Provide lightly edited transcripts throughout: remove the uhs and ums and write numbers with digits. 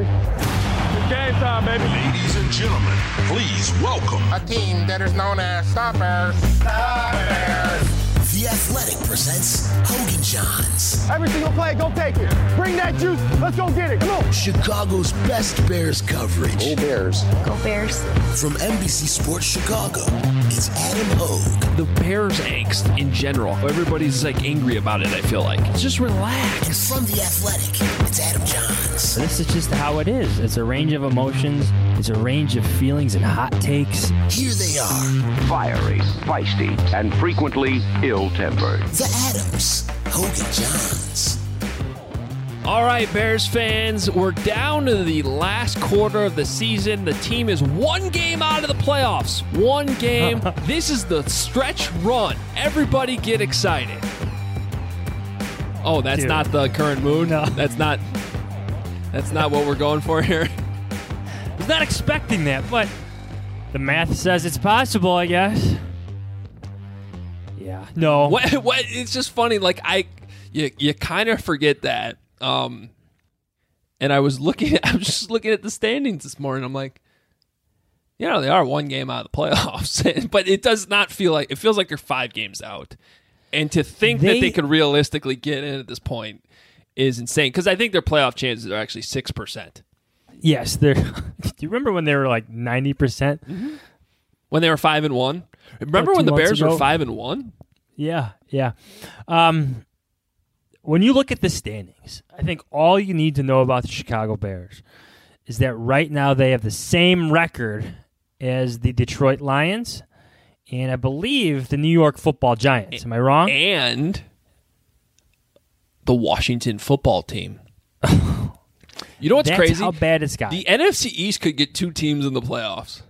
ready. It's game time, baby. Ladies and gentlemen, please welcome a team that is known as Stoppers. Stoppers. The Athletic presents Hogan Johns. Every single play, go take it. Bring that juice. Let's go get it. Come on. Chicago's best Bears coverage. Go Bears. Go Bears. From NBC Sports Chicago, it's Adam Hogue. The Bears angst in general. Everybody's like angry about it, I feel like. Just relax. And from The Athletic, it's Adam Johns. This is just how it is. It's a range of emotions. It's a range of feelings and hot takes. Here they are. Fiery, feisty, and frequently ill-tempered. The Adams. Hogan Johns. All right, Bears fans, we're down to the last quarter of the season. The team is one game out of the playoffs. One game. This is the stretch run. Everybody get excited. Oh, that's not the current mood? No. That's not what we're going for here? I was not expecting that, but the math says it's possible, I guess. Yeah. No. What? It's just funny. Like, you kind of forget that. And I was just looking at the standings this morning. I'm like, they are one game out of the playoffs, but it does not feel like, it feels like they're 5 games out. And to think that they could realistically get in at this point is insane. Because I think their playoff chances are actually 6%. Yes. Do you remember when they were like 90%? Mm-hmm. When they were 5-1? Remember when the Bears were 5-1? Yeah. When you look at the standings, I think all you need to know about the Chicago Bears is that right now they have the same record as the Detroit Lions and I believe the New York Football Giants. Am I wrong? And the Washington Football Team. You know what's That's crazy? How bad it's got. The NFC East could get 2 teams in the playoffs.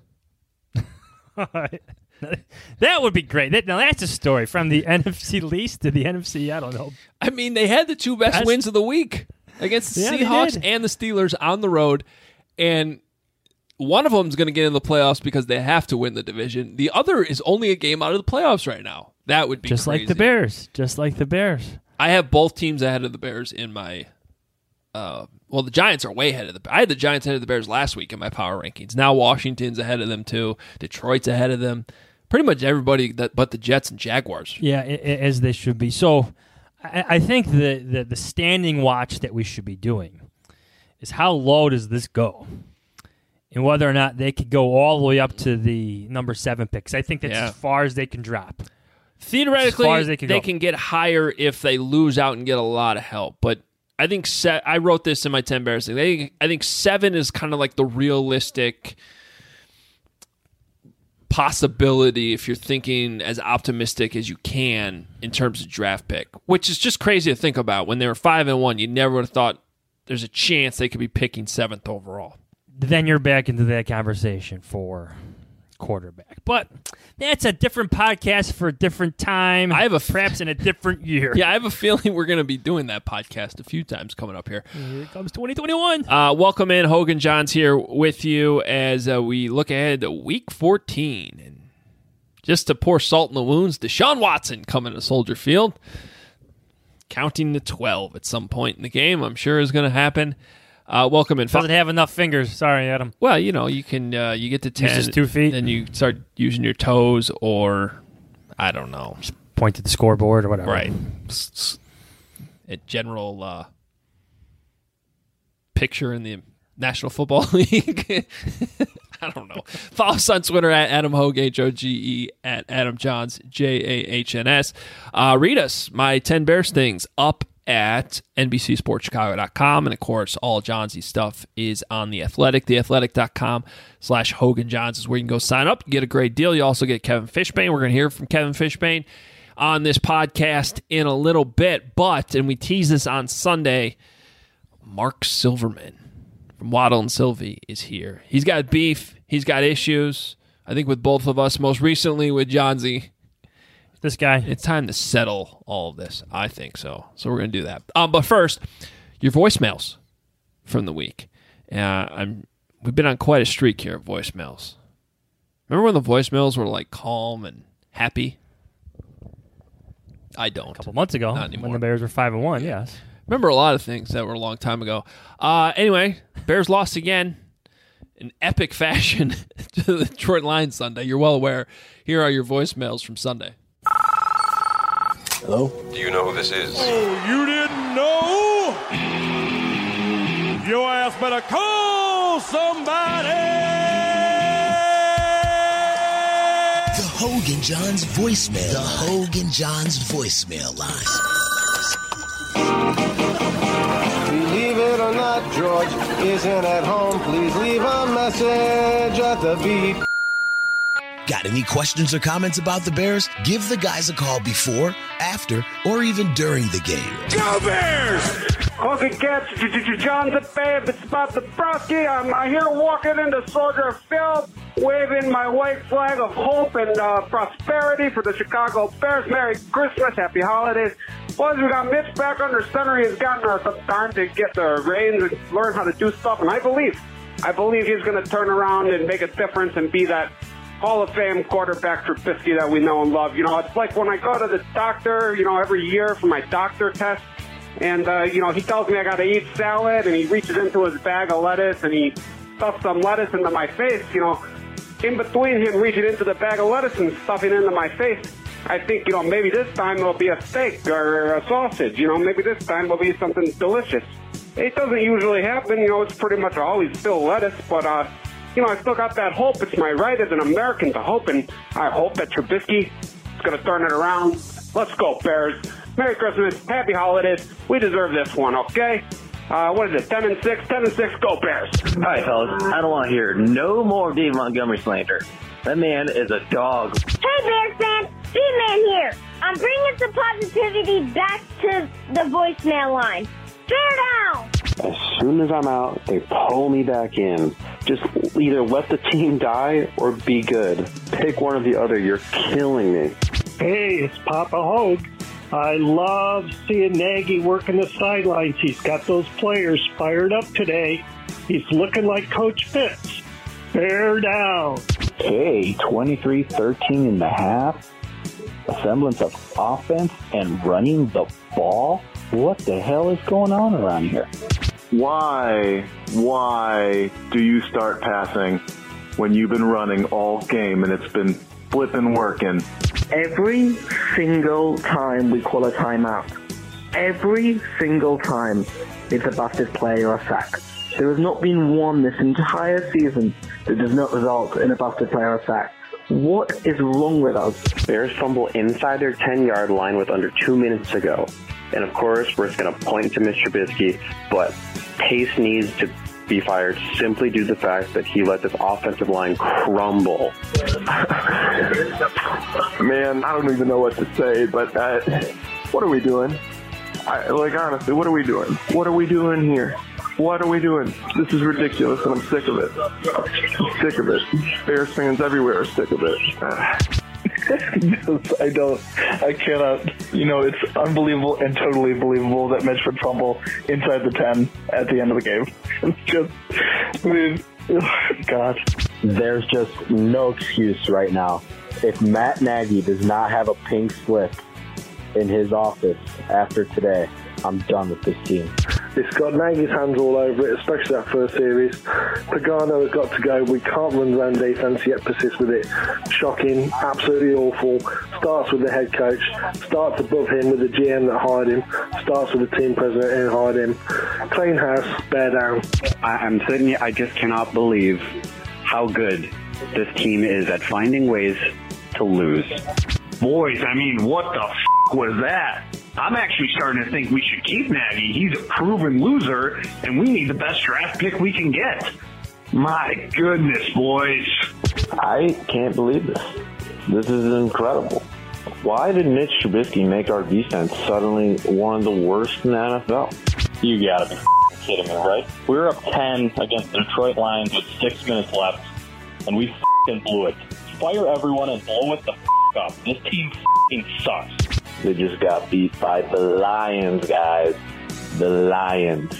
That would be great. Now that's a story from the NFC least to the NFC. I don't know. I mean, they had the 2 best wins of the week against the Seahawks and the Steelers on the road, and one of them is going to get in the playoffs because they have to win the division. The other is only a game out of the playoffs right now. That would be just crazy. like the Bears. Just like the Bears. I have both teams ahead of the Bears in my. Well, the Giants are way ahead of I had the Giants ahead of the Bears last week in my power rankings. Now Washington's ahead of them too. Detroit's ahead of them. Pretty much everybody but the Jets and Jaguars. Yeah, as they should be. So I think the standing watch that we should be doing is how low does this go? And whether or not they could go all the way up to the number 7 picks. I think that's as far as they can drop. Theoretically, as they can get higher if they lose out and get a lot of help. But I think I wrote this in my 10 Bears thing. I think 7 is kind of like the realistic possibility if you're thinking as optimistic as you can in terms of draft pick, which is just crazy to think about. When they were 5-1, you never would have thought there's a chance they could be picking 7th overall. Then you're back into that conversation for quarterback. But that's a different podcast for a different time. Perhaps in a different year. Yeah, I have a feeling we're going to be doing that podcast a few times coming up here. Here comes 2021. Welcome in. Hogan Johns here with you as we look ahead to Week 14. And just to pour salt in the wounds, Deshaun Watson coming to Soldier Field. Counting to 12 at some point in the game, I'm sure is going to happen. Welcome in. Doesn't have enough fingers. Sorry, Adam. Well, you can you get to 10. Use just 2 feet. Then you start using your toes or, I don't know. Just point to the scoreboard or whatever. Right. A general picture in the National Football League. I don't know. Follow us on Twitter at Adam Hogue, Hoge, at Adam Johns, Jahns. Read us, my 10 Bears things, up at NBCSportsChicago.com. And, of course, all Johnsy stuff is on The Athletic. TheAthletic.com/Hogan Johns is where you can go sign up. You get a great deal. You also get Kevin Fishbain. We're going to hear from Kevin Fishbain on this podcast in a little bit. But, and we tease this on Sunday, Mark Silverman from Waddle and Sylvie is here. He's got beef. He's got issues. I think with both of us, most recently with Johnsy. This guy. It's time to settle all of this. I think so. So we're going to do that. But first, your voicemails from the week. We've been on quite a streak here of voicemails. Remember when the voicemails were like calm and happy? I don't. A couple months ago, Not anymore. when the Bears were 5-1, yes. Remember a lot of things that were a long time ago. Anyway, Bears lost again in epic fashion to the Detroit Lions Sunday. You're well aware. Here are your voicemails from Sunday. Hello? Do you know who this is? Oh, you didn't know? Your ass better call somebody. The Hogan Johns voicemail. The Hogan Johns voicemail line. Believe it or not, George isn't at home. Please leave a message at the beep. Got any questions or comments about the Bears? Give the guys a call before, after, or even during the game. Go Bears! Hogan Cats, John the Babe, it's Bob the Brosky. I'm here walking into Soldier Field, waving my white flag of hope and prosperity for the Chicago Bears. Merry Christmas, Happy Holidays. Boys, we got Mitch back under center. He's gotten some time to get the reins and learn how to do stuff, and I believe he's going to turn around and make a difference and be that Hall of Fame quarterback Trubisky that we know and love. You know, it's like when I go to the doctor, you know, every year for my doctor test, and, you know, he tells me I got to eat salad, and he reaches into his bag of lettuce, and he stuffs some lettuce into my face. You know, in between him reaching into the bag of lettuce and stuffing into my face, I think, you know, maybe this time it'll be a steak or a sausage. You know, maybe this time it'll be something delicious. It doesn't usually happen. You know, it's pretty much always still lettuce, but, you know, I still got that hope. It's my right as an American to hope, and I hope that Trubisky is going to turn it around. Let's go, Bears. Merry Christmas. Happy Holidays. We deserve this one, okay? What is it, 10-6? 10-6, go Bears. All right, fellas. I don't want to hear no more Dave Montgomery slander. That man is a dog. Hey, Bears fans. B-Man here. I'm bringing some positivity back to the voicemail line. Bear down. As soon as I'm out, they pull me back in. Just either let the team die or be good. Pick one or the other. You're killing me. Hey, it's Papa Hogue. I love seeing Nagy working the sidelines. He's got those players fired up today. He's looking like Coach Fitz. Bear down. Hey, 23-13 in the half. A semblance of offense and running the ball. What the hell is going on around here? Why do you start passing when you've been running all game and it's been flipping working? Every single time we call a timeout, every single time it's a busted play or a sack. There has not been one this entire season that does not result in a busted play or a sack. What is wrong with us? Bears fumble inside their 10-yard line with under 2 minutes to go. And of course, we're just going to point to Mr. Trubisky, but Pace needs to be fired simply due to the fact that he let this offensive line crumble. Man, I don't even know what to say, but what are we doing? Honestly, what are we doing? What are we doing here? What are we doing? This is ridiculous, and I'm sick of it. I'm sick of it. Bears fans everywhere are sick of it. I cannot, it's unbelievable and totally believable that Mitch would fumble inside the 10 at the end of the game. It's just, God. There's just no excuse right now. If Matt Nagy does not have a pink slip in his office after today, I'm done with this team. It's got Nagy's hands all over it, especially that first series. Pagano has got to go. We can't run zone defense yet persist with it. Shocking, absolutely awful. Starts with the head coach. Starts above him with the GM that hired him. Starts with the team president who hired him. Clean house, bear down. I'm sitting here, I just cannot believe how good this team is at finding ways to lose. Boys, I mean, what the was that? I'm actually starting to think we should keep Nagy. He's a proven loser, and we need the best draft pick we can get. My goodness, boys. I can't believe this. This is incredible. Why did Mitch Trubisky make our defense suddenly one of the worst in the NFL? You gotta be kidding me, right? We were up 10 against the Detroit Lions with 6 minutes left, and we blew it. Fire everyone and blow it the up. This team sucks. They just got beat by the Lions, guys. The Lions.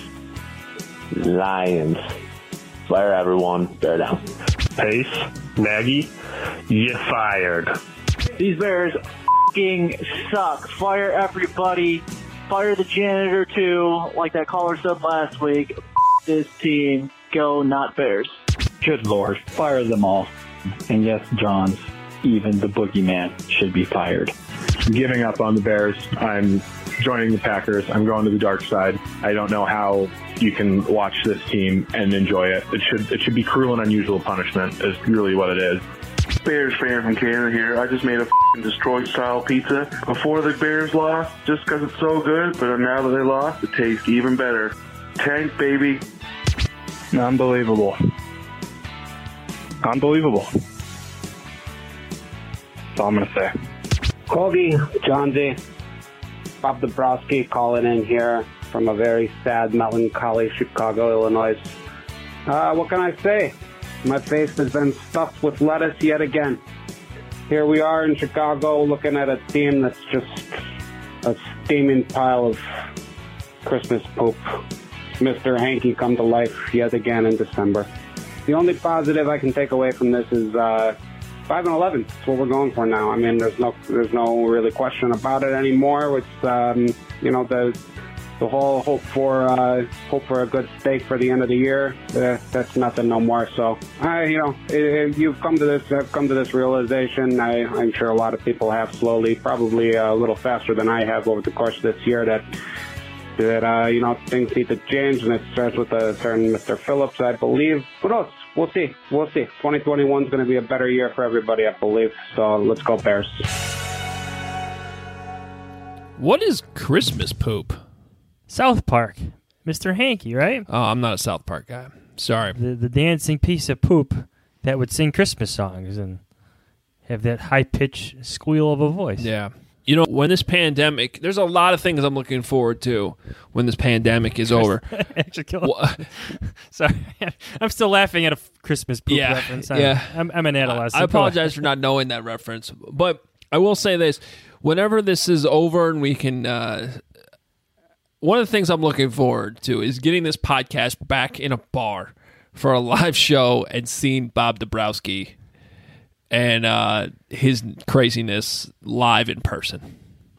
Fire everyone. Bear down. Pace, Nagy, you fired. These Bears suck. Fire everybody. fire the janitor too, like that caller said last week. This team, go not Bears. Good Lord, fire them all. And yes, Johns, even the boogeyman should be fired. I'm giving up on the Bears. I'm joining the Packers. I'm going to the dark side. I don't know how you can watch this team and enjoy it. It should be cruel and unusual punishment is really what it is. Bears fan from Canada here. I just made a Detroit-style pizza before the Bears lost just because it's so good, but now that they lost, it tastes even better. Tank, baby. Unbelievable. Unbelievable. That's all I'm going to say. Corgi, John Z, Bob Dabrowski calling in here from a very sad, melancholy Chicago, Illinois. What can I say? My face has been stuffed with lettuce yet again. Here we are in Chicago looking at a team that's just a steaming pile of Christmas poop. Mr. Hanky come to life yet again in December. The only positive I can take away from this is 5-11. That's what we're going for now. I mean, there's no really question about it anymore. It's the whole hope for a good steak for the end of the year. That's nothing no more. So you've come to this realization. I'm sure a lot of people have slowly, probably a little faster than I have over the course of this year. That things need to change, and it starts with a certain Mr. Phillips, I believe. Who knows? We'll see. 2021 is going to be a better year for everybody, I believe. So let's go Bears. What is Christmas poop? South Park. Mr. Hanky, right? Oh, I'm not a South Park guy. Sorry. The dancing piece of poop that would sing Christmas songs and have that high-pitched squeal of a voice. Yeah. You know, when this pandemic, there's a lot of things I'm looking forward to when this pandemic is over. Sorry, I'm still laughing at a Christmas poop reference. I'm an adolescent. I apologize for not knowing that reference, but I will say this: whenever this is over and we can, one of the things I'm looking forward to is getting this podcast back in a bar for a live show and seeing Bob Dabrowski and his craziness live in person.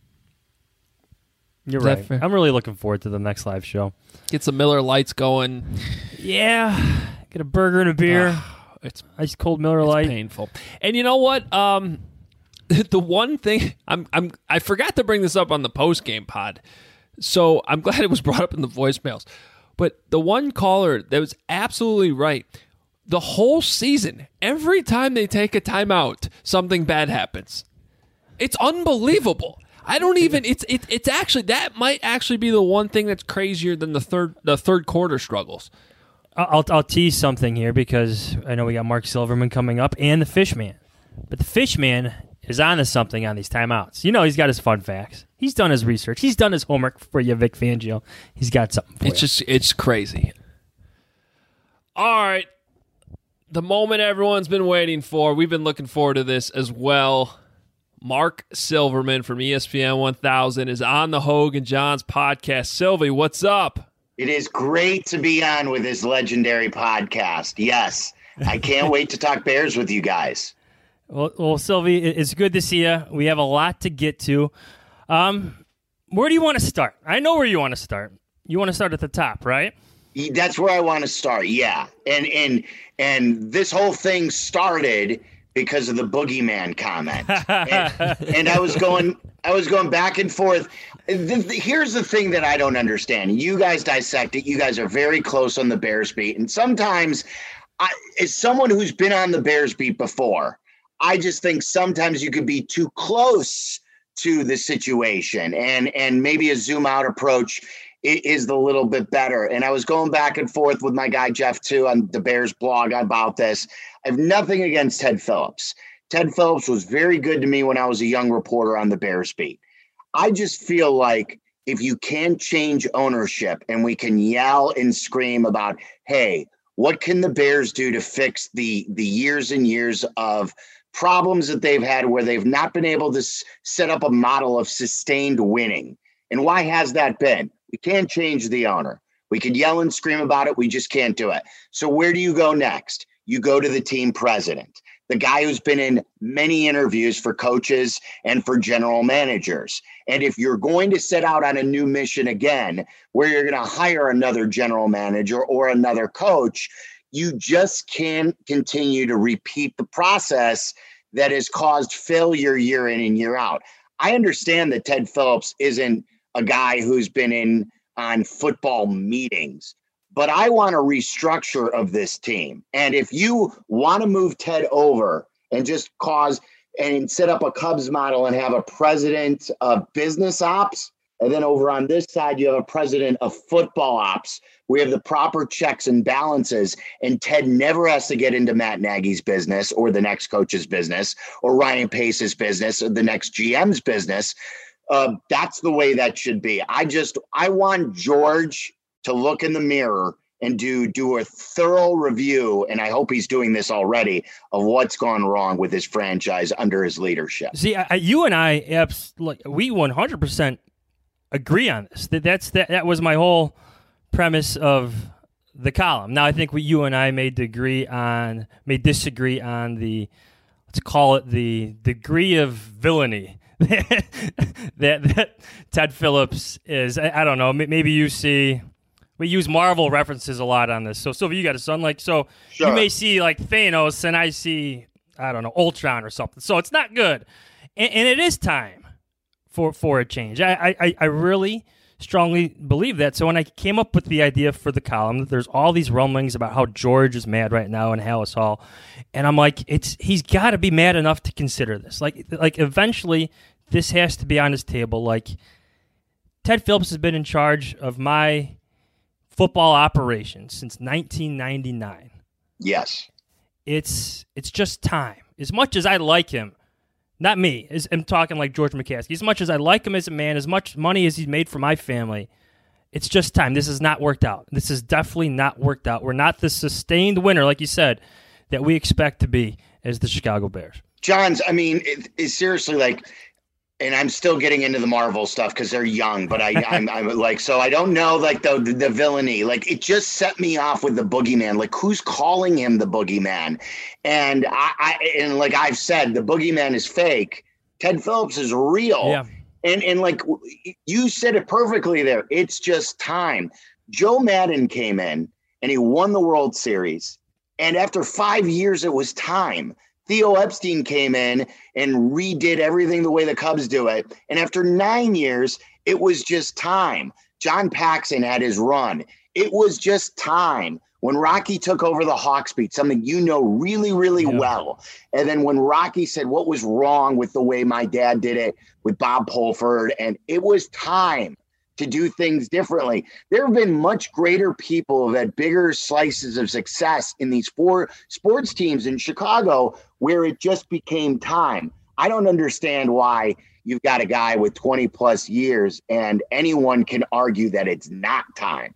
You're right. I'm really looking forward to the next live show. Get some Miller Lights going. Yeah. Get a burger and a beer. It's ice cold Miller Lite. Painful. And you know what? The one thing I forgot to bring this up on the post game pod, so I'm glad it was brought up in the voicemails. But the one caller that was absolutely right. The whole season, every time they take a timeout, something bad happens. It's unbelievable. I don't even. It's actually that might actually be the one thing that's crazier than the third quarter struggles. I'll tease something here because I know we got Mark Silverman coming up and the Fishman, but the Fishman is onto something on these timeouts. You know, he's got his fun facts. He's done his research. He's done his homework for you, Vic Fangio. He's got something for you. It's crazy. All right. The moment everyone's been waiting for. We've been looking forward to this as well. Mark Silverman from ESPN 1000 is on the Hogue and Johns podcast. Sylvie, what's up? It is great to be on with this legendary podcast. Yes, I can't wait to talk Bears with you guys. Well, Sylvie, it's good to see you. We have a lot to get to. Where do you want to start? I know where you want to start. You want to start at the top, right? That's where I want to start. Yeah, and this whole thing started because of the boogeyman comment, and I was going back and forth. Here's the thing that I don't understand. You guys dissect it. You guys are very close on the Bears beat, and sometimes, as someone who's been on the Bears beat before, I just think sometimes you could be too close to the situation, and maybe a zoom out approach is a little bit better. And I was going back and forth with my guy Jeff too on the Bears blog about this. I have nothing against Ted Phillips. Ted Phillips was very good to me when I was a young reporter on the Bears beat. I just feel like if you can change ownership and we can yell and scream about, hey, what can the Bears do to fix the years and years of problems that they've had where they've not been able to set up a model of sustained winning? And why has that been? We can't change the owner. We could yell and scream about it. We just can't do it. So where do you go next? You go to the team president. the guy who's been in many interviews for coaches and for general managers. And if you're going to set out on a new mission again, where you're going to hire another general manager or another coach, you just can't continue to repeat the process that has caused failure year in and year out. I understand that Ted Phillips isn't a guy who's been on football meetings, but I want a restructure of this team. And if you want to move Ted over and just set up a Cubs model and have a president of business ops, and then over on this side, you have a president of football ops. We have the proper checks and balances, and Ted never has to get into Matt Nagy's business or the next coach's business or Ryan Pace's business or the next GM's business. That's the way that should be. I want George to look in the mirror and do a thorough review, and I hope he's doing this already, of what's gone wrong with his franchise under his leadership. See, you and I, we 100% agree on this. That was my whole premise of the column. Now, I think you and I may disagree on the, let's call it the degree of villainy that Ted Phillips is. I don't know. Maybe you see. We use Marvel references a lot on this. So, Sylvia, you got a son, sure. You may see Thanos, and I see, I don't know, Ultron or something. So it's not good, and it is time for a change. I really strongly believe that. So when I came up with the idea for the column, there's all these rumblings about how George is mad right now in Halas Hall, and I'm like, he's got to be mad enough to consider this. Like eventually, this has to be on his table. Ted Phillips has been in charge of my football operations since 1999. Yes. It's just time. As much as I like him, not me, I'm talking like George McCaskey, as much as I like him as a man, as much money as he's made for my family, it's just time. This has not worked out. This has definitely not worked out. We're not the sustained winner, like you said, that we expect to be as the Chicago Bears. Johns, I mean, it's seriously and I'm still getting into the Marvel stuff because they're young, but I'm so I don't know the villainy. It just set me off with the boogeyman. Who's calling him the boogeyman? And I've said, the boogeyman is fake. Ted Phillips is real. Yeah. And you said it perfectly there. It's just time. Joe Madden came in and he won the World Series. And after 5 years, it was time. Theo Epstein came in and redid everything the way the Cubs do it. And after 9 years, it was just time. John Paxson had his run. It was just time. When Rocky took over the Hawks beat, something you know really, really well. And then when Rocky said what was wrong with the way my dad did it with Bob Pulford, and it was time to do things differently. There have been much greater people who have had bigger slices of success in these 4 sports teams in Chicago where it just became time. I don't understand why you've got a guy with 20 plus years and anyone can argue that it's not time.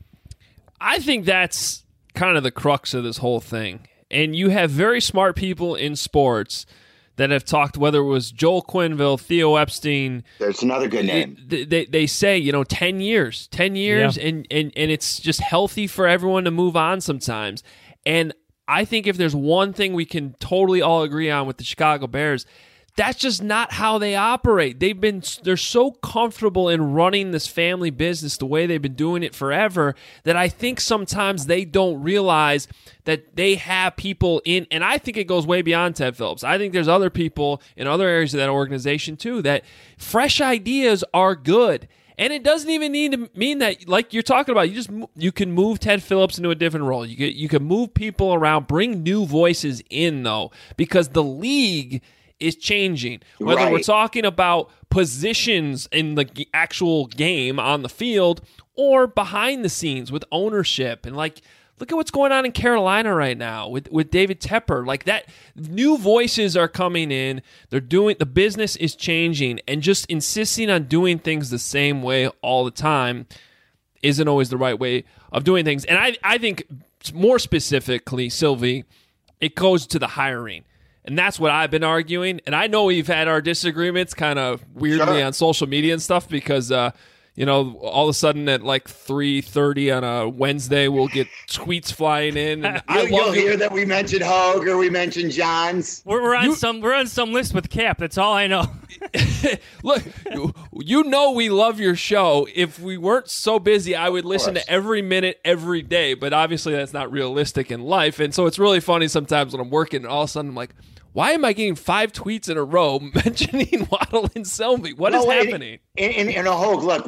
I think that's kind of the crux of this whole thing. And you have very smart people in sports that have talked, whether it was Joel Quenneville, Theo Epstein. There's another good name. They say, 10 years, yeah. and it's just healthy for everyone to move on sometimes. And I think if there's one thing we can totally all agree on with the Chicago Bears, that's just not how they operate. They're so comfortable in running this family business the way they've been doing it forever that I think sometimes they don't realize that they have people in, and I think it goes way beyond Ted Phillips. I think there's other people in other areas of that organization too that fresh ideas are good. And it doesn't even need to mean that, like you're talking about, you can move Ted Phillips into a different role. You can move people around, bring new voices in though, because the league is changing. Whether we're talking about positions in the actual game on the field or behind the scenes with ownership. And look at what's going on in Carolina right now with David Tepper. That new voices are coming in. The business is changing, and just insisting on doing things the same way all the time isn't always the right way of doing things. And I think more specifically, Sylvie, it goes to the hiring. And that's what I've been arguing. And I know we've had our disagreements kind of weirdly on social media and stuff because, all of a sudden at like 3:30 on a Wednesday, we'll get tweets flying in. And you'll hear that we mentioned Hogue or we mentioned Johns. We're on some list with Cap. That's all I know. Look, we love your show. If we weren't so busy, I would listen to every minute, every day. But obviously, that's not realistic in life. And so it's really funny sometimes when I'm working, and all of a sudden I'm like, why am I getting 5 tweets in a row mentioning Waddle and Selby? What is happening? And Hogue, look,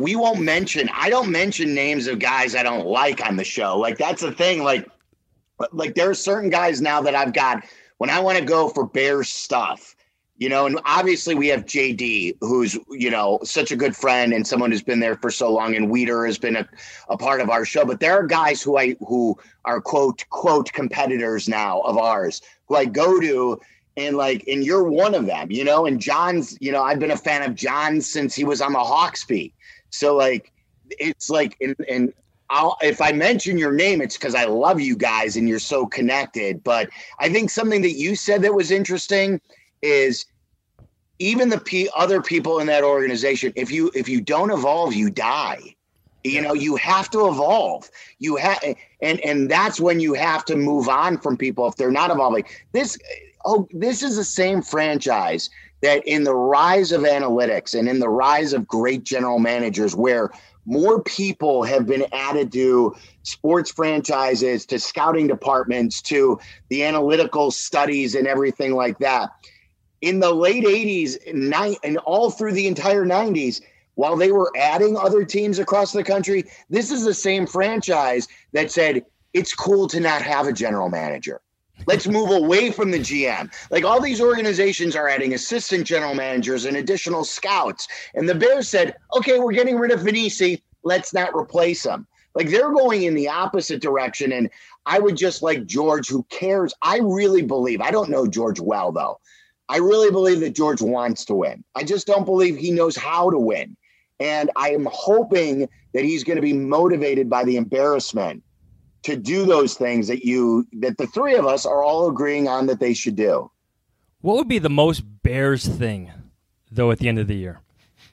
I don't mention names of guys I don't like on the show. Like, that's the thing. Like there are certain guys now that I've got when I want to go for Bears stuff, and obviously we have JD, who's, such a good friend and someone who's been there for so long. And Weeder has been a part of our show. But there are guys who are quote competitors now of ours who I go to. And you're one of them, and John's, I've been a fan of John since he was on the Hawks beat. So it's and if I mention your name, it's because I love you guys and you're so connected. But I think something that you said that was interesting is even the other people in that organization, if you don't evolve, you die. You have to evolve. You have, and that's when you have to move on from people if they're not evolving. This is the same franchise that in the rise of analytics and in the rise of great general managers, where more people have been added to sports franchises, to scouting departments, to the analytical studies and everything like that. In the late 80s and all through the entire 90s, while they were adding other teams across the country, this is the same franchise that said, it's cool to not have a general manager. Let's move away from the GM. All these organizations are adding assistant general managers and additional scouts. And the Bears said, okay, we're getting rid of Vinicius. Let's not replace him. They're going in the opposite direction. And I would just like George, who cares. I really believe, I don't know George well, though. I really believe that George wants to win. I just don't believe he knows how to win. And I am hoping that he's going to be motivated by the embarrassment to do those things that the three of us are all agreeing on that they should do. What would be the most Bears thing, though, at the end of the year?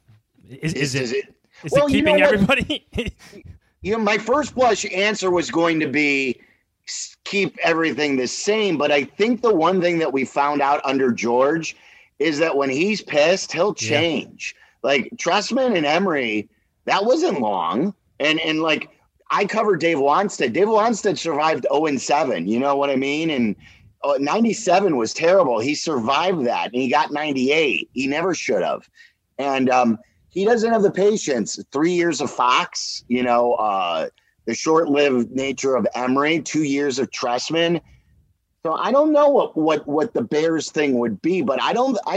Is it keeping everybody? My first blush answer was going to be keep everything the same. But I think the one thing that we found out under George is that when he's pissed, he'll change. Trestman and Emery, that wasn't long. And I covered Dave Wanstead. Dave Wanstead survived 0-7. You know what I mean? And 97 was terrible. He survived that, and he got 98. He never should have. And he doesn't have the patience. 3 years of Fox, the short-lived nature of Emery, 2 years of Trestman. So I don't know what the Bears thing would be, but I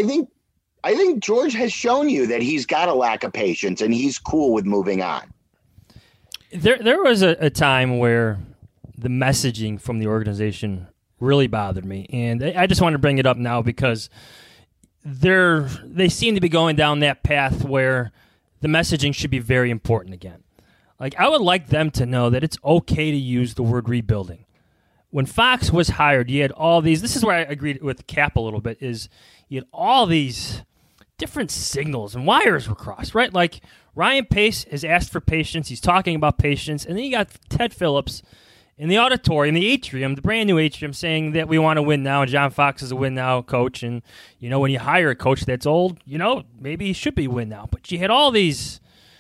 think George has shown you that he's got a lack of patience, and he's cool with moving on. There was a time where the messaging from the organization really bothered me, and I just want to bring it up now because they seem to be going down that path where the messaging should be very important again. I would like them to know that it's okay to use the word rebuilding. When Fox was hired, you had all these. This is where I agreed with Cap a little bit. Is you had all these different signals and wires were crossed, right? Ryan Pace has asked for patience. He's talking about patience. And then you got Ted Phillips in the auditorium, the atrium, the brand new atrium, saying that we want to win now. And John Fox is a win now coach. And, when you hire a coach that's old, maybe he should be win now. But you had all these,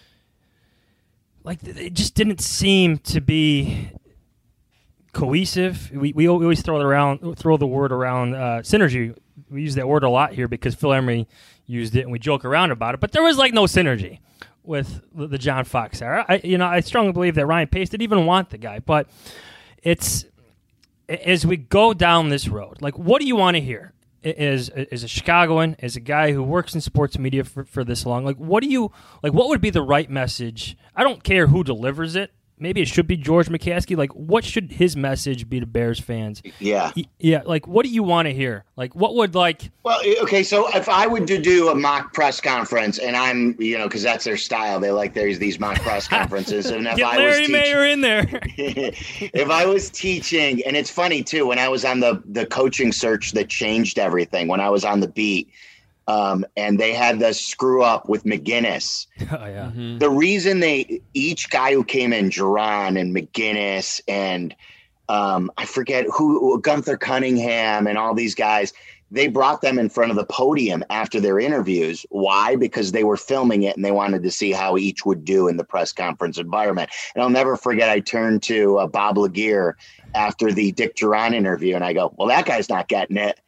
it just didn't seem to be cohesive. We always throw the word around synergy. We use that word a lot here because Phil Emery used it and we joke around about it. But there was no synergy with the John Fox era. I strongly believe that Ryan Pace didn't even want the guy. But it's as we go down this road, what do you want to hear? As a Chicagoan, as a guy who works in sports media for this long, what would be the right message? I don't care who delivers it. Maybe it should be George McCaskey. What should his message be to Bears fans? Yeah. Yeah. What do you want to hear? What would Well, okay. So if I would do a mock press conference, and I'm, because that's their style. They like these mock press conferences. And if Get Larry Mayer in there. If I was teaching, and it's funny too, when I was on the coaching search that changed everything, when I was on the beat, and they had the screw up with McGinnis. Oh, yeah. Mm-hmm. The reason each guy who came in, Duran and McGinnis and I forget who, Gunther Cunningham and all these guys, they brought them in front of the podium after their interviews. Why? Because they were filming it and they wanted to see how each would do in the press conference environment. And I'll never forget, I turned to Bob Laguerre after the Dick Duran interview and I go, well, that guy's not getting it.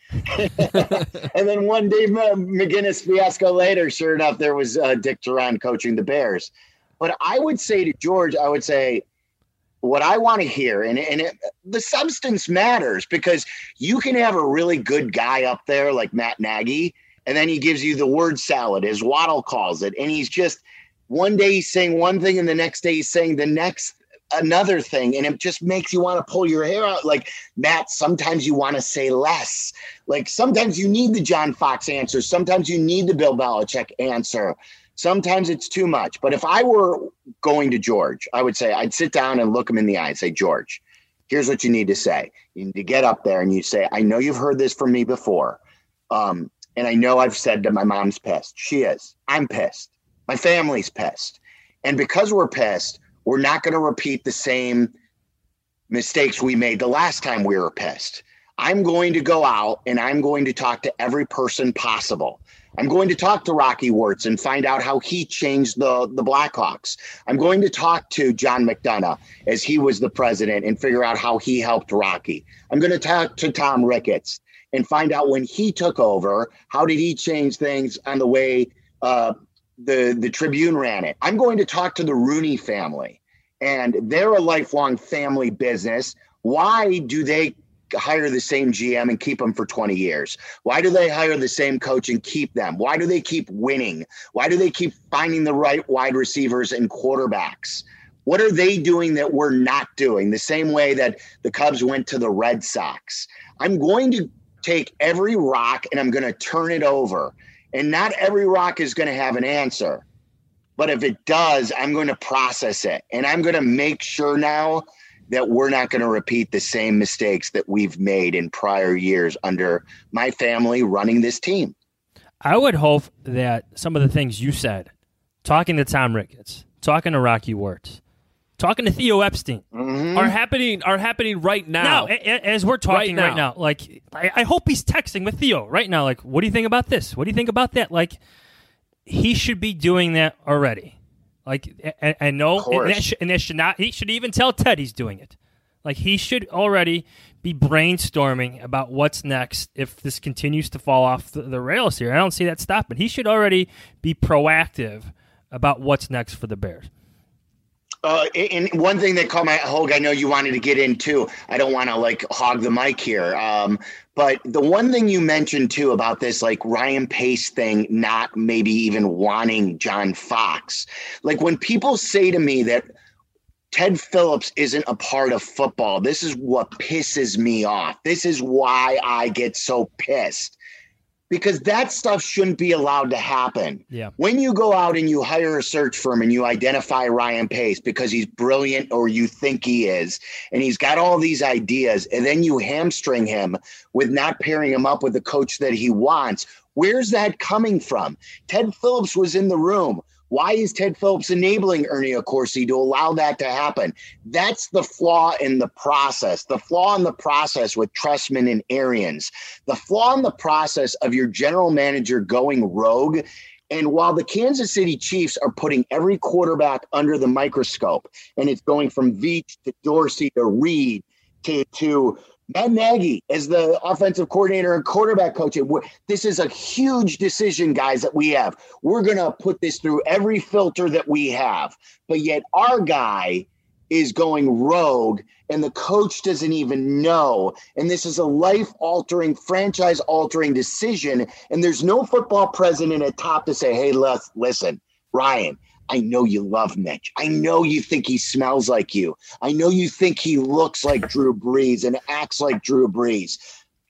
And then one Dave McGinnis fiasco later, sure enough, there was Dick Duran coaching the Bears. But I would say to George, I would say, what I want to hear, the substance matters, because you can have a really good guy up there like Matt Nagy, and then he gives you the word salad, as Waddle calls it. And he's just, one day he's saying one thing and the next day he's saying another thing. And it just makes you want to pull your hair out. Like, Matt, sometimes you want to say less. Like, sometimes you need the John Fox answer. Sometimes you need the Bill Belichick answer. Sometimes it's too much. But if I were going to George, I would say, I'd sit down and look him in the eye and say, George, here's what you need to say. You need to get up there and you say, I know you've heard this from me before. And I know I've said that my mom's pissed. She is. I'm pissed. My family's pissed. And because we're pissed, we're not going to repeat the same mistakes we made the last time we were pissed. I'm going to go out and I'm going to talk to every person possible. I'm going to talk to Rocky Wirtz and find out how he changed the Blackhawks. I'm going to talk to John McDonough as he was the president and figure out how he helped Rocky. I'm going to talk to Tom Ricketts and find out when he took over, how did he change things on the way the Tribune ran it. I'm going to talk to the Rooney family, and they're a lifelong family business. Why do they hire the same GM and keep them for 20 years? Why do they hire the same coach and keep them? Why do they keep winning? Why do they keep finding the right wide receivers and quarterbacks? What are they doing that we're not doing? The same way that the Cubs went to the Red Sox. I'm going to take every rock and I'm going to turn it over. And not every rock is going to have an answer. But if it does, I'm going to process it. And I'm going to make sure now that we're not going to repeat the same mistakes that we've made in prior years under my family running this team. I would hope that some of the things you said, talking to Tom Ricketts, talking to Rocky Wirtz, talking to Theo Epstein, Mm-hmm. are happening right now. As we're talking right now. Like, I hope he's texting with Theo right now. Like, what do you think about this? What do you think about that? Like, he should be doing that already. Like, I know, and that should not. He should even tell Ted he's doing it. Like, he should already be brainstorming about what's next if this continues to fall off the rails here. I don't see that stopping. He should already be proactive about what's next for the Bears. And one thing that caught my Hogue, I know you wanted to get into. I don't want to hog the mic here. But the one thing you mentioned too about this, Ryan Pace thing, not maybe even wanting John Fox. Like, when people say to me that Ted Phillips isn't a part of football, this is what pisses me off. This is why I get so pissed. Because that stuff shouldn't be allowed to happen. Yeah. When you go out and you hire a search firm and you identify Ryan Pace because he's brilliant, or you think he is, and he's got all these ideas, and then you hamstring him with not pairing him up with the coach that he wants, where's that coming from? Ted Phillips was in the room. Why is Ted Phillips enabling Ernie Accorsi to allow that to happen? That's the flaw in the process. The flaw in the process with Trestman and Arians. The flaw in the process of your general manager going rogue. And while the Kansas City Chiefs are putting every quarterback under the microscope, and it's going from Veach to Dorsey to Reed to Matt Nagy as the offensive coordinator and quarterback coach. This is a huge decision, guys, that we have. We're going to put this through every filter that we have. But yet our guy is going rogue, and the coach doesn't even know. And this is a life-altering, franchise-altering decision. And there's no football president at top to say, hey, listen, Ryan, I know you love Mitch. I know you think he smells like you. I know you think he looks like Drew Brees and acts like Drew Brees.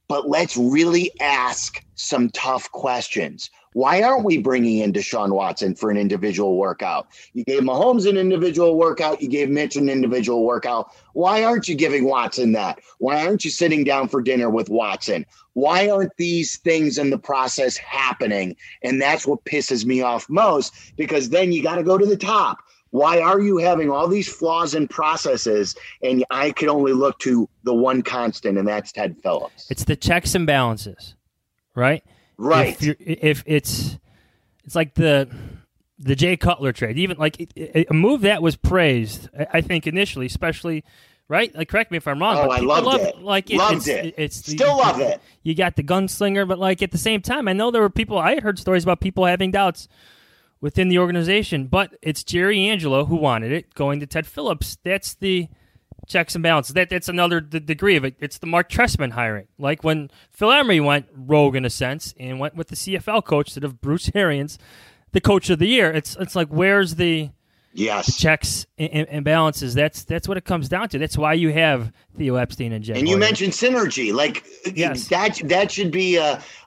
but let's really ask some tough questions. Why aren't we bringing in Deshaun Watson for an individual workout? You gave Mahomes an individual workout. You gave Mitch an individual workout. Why aren't you giving Watson that? Why aren't you sitting down for dinner with Watson? Why aren't these things in the process happening? And that's what pisses me off most, because then you got to go to the top. Why are you having all these flaws in processes? And I could only look to the one constant, and that's Ted Phillips. It's the checks and balances, right? Right. If it's like the Jay Cutler trade, even like a move that was praised, I think initially, especially, right? Like, correct me if I'm wrong. Oh, but I loved it. Like, loved it. Love it. You got the gunslinger, but like at the same time, I know there were people. I heard stories about people having doubts within the organization, but it's Jerry Angelo who wanted it, going to Ted Phillips. That's the checks and balances. That's another degree of it. It's the Mark Trestman hiring. Like when Phil Emery went rogue in a sense and went with the CFL coach instead of Bruce Arians, the coach of the year. It's like, where's the checks and balances? That's what it comes down to. That's why you have Theo Epstein and Jen. And you mentioned synergy. Like, that should be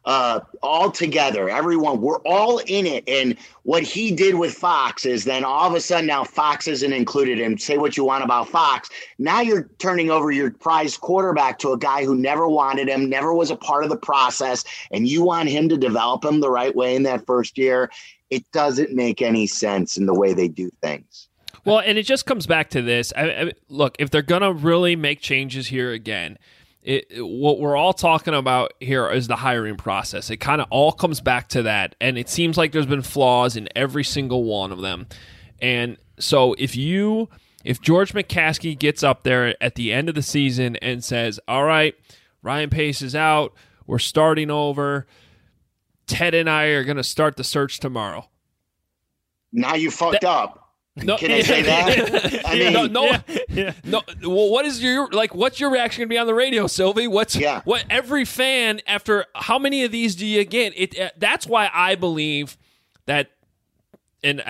all together. Everyone, we're all in it. And what he did with Fox is then all of a sudden now Fox isn't included. And say what you want about Fox. Now you're turning over your prized quarterback to a guy who never wanted him, never was a part of the process, and you want him to develop him the right way in that first year. It doesn't make any sense in the way they do things. Well, and it just comes back to this. Look, if they're going to really make changes here again, what we're all talking about here is the hiring process. It kind of all comes back to that, and it seems like there's been flaws in every single one of them. And so if George McCaskey gets up there at the end of the season and says, all right, Ryan Pace is out, we're starting over, Ted and I are going to start the search tomorrow. Now you fucked up. No, can I say that? I mean, no. Well, what's your reaction going to be on the radio, Sylvie? What every fan, after how many of these do you get? That's why I believe that, and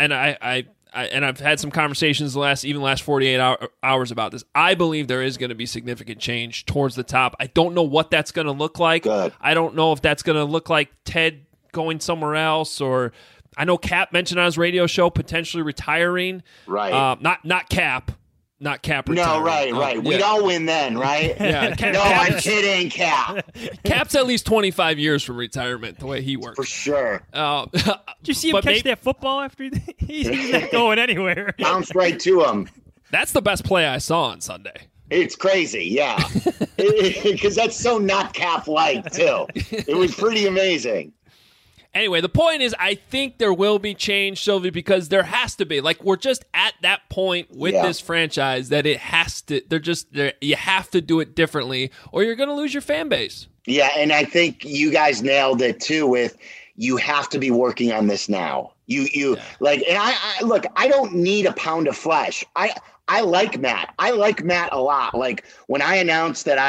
I've had some conversations the last 48 hours about this. I believe there is going to be significant change towards the top. I don't know what that's going to look like. Good. I don't know if that's going to look like Ted going somewhere else, or I know Cap mentioned on his radio show potentially retiring. Right. Not Cap retiring. No, right. We'd all win then, right? Yeah. I'm kidding, Cap. Cap's at least 25 years from retirement, the way he works. For sure. Did you see him catch that football after he's not going anywhere? Bounced right to him. That's the best play I saw on Sunday. It's crazy, yeah. Because that's so not Cap-like, too. It was pretty amazing. Anyway, the point is, I think there will be change, Sylvie, because there has to be. Like, we're just at that point with this franchise that it has to. You have to do it differently, or you're going to lose your fan base. Yeah, and I think you guys nailed it too. With you have to be working on this now. Like, and I look. I don't need a pound of flesh. I like Matt. I like Matt a lot. Like when I announced that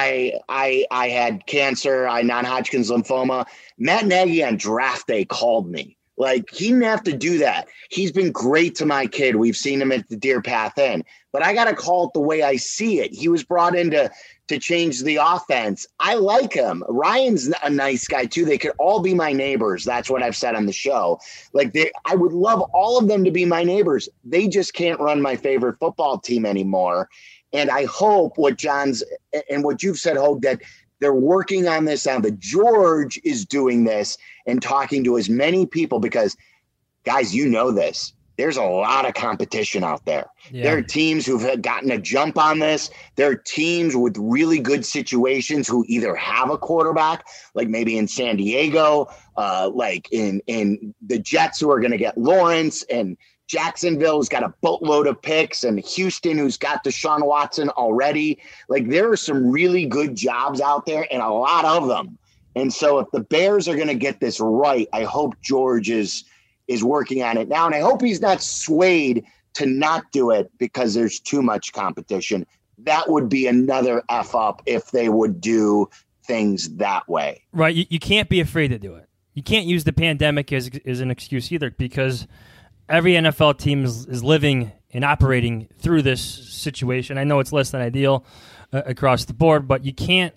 I had cancer, non-Hodgkin's lymphoma, Matt Nagy on draft day called me. Like he didn't have to do that. He's been great to my kid. We've seen him at the Deer Path Inn, but I got to call it the way I see it. He was brought in to change the offense. I like him. Ryan's a nice guy too. They could all be my neighbors. That's what I've said on the show. Like I would love all of them to be my neighbors. They just can't run my favorite football team anymore. And I hope what John's and what you've said, Hogue, that they're working on this now. That George is doing this and talking to as many people because, guys, you know this. There's a lot of competition out there. Yeah. There are teams who've gotten a jump on this. There are teams with really good situations who either have a quarterback, like maybe in San Diego, like in the Jets who are going to get Lawrence, and Jacksonville's got a boatload of picks, and Houston who's got Deshaun Watson already. Like there are some really good jobs out there and a lot of them. And so if the Bears are going to get this right, I hope George is working on it now. And I hope he's not swayed to not do it because there's too much competition. That would be another F up if they would do things that way. Right. You can't be afraid to do it. You can't use the pandemic as an excuse either, because every NFL team is living and operating through this situation. I know it's less than ideal across the board, but you can't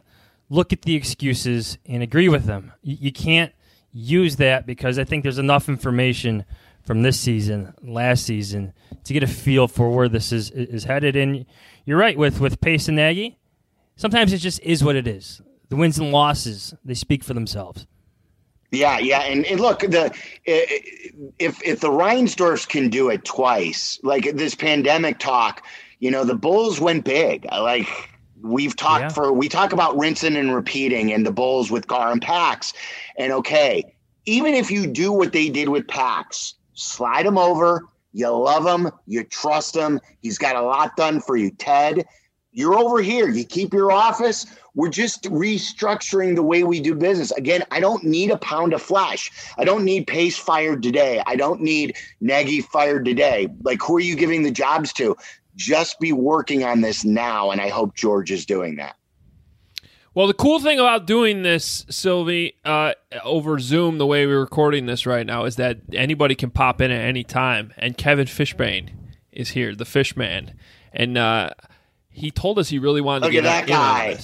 look at the excuses and agree with them. You can't use that, because I think there's enough information from this season, last season, to get a feel for where this is headed. And you're right with Pace and Nagy. Sometimes it just is what it is. The wins and losses, they speak for themselves. Yeah, and look, if the Reinsdorfs can do it twice, like this pandemic talk, the Bulls went big. Like we talk about rinsing and repeating, and the Bulls with Gar and Pax. And okay, even if you do what they did with Pax, slide him over, you love him, you trust him, he's got a lot done for you, Ted. You're over here. You keep your office. We're just restructuring the way we do business. Again, I don't need a pound of flesh. I don't need Pace fired today. I don't need Nagy fired today. Like, who are you giving the jobs to? Just be working on this now, and I hope George is doing that. Well, the cool thing about doing this, Sylvie, over Zoom, the way we're recording this right now, is that anybody can pop in at any time. And Kevin Fishbane is here, the Fishman. And he told us he really wanted to get that guy.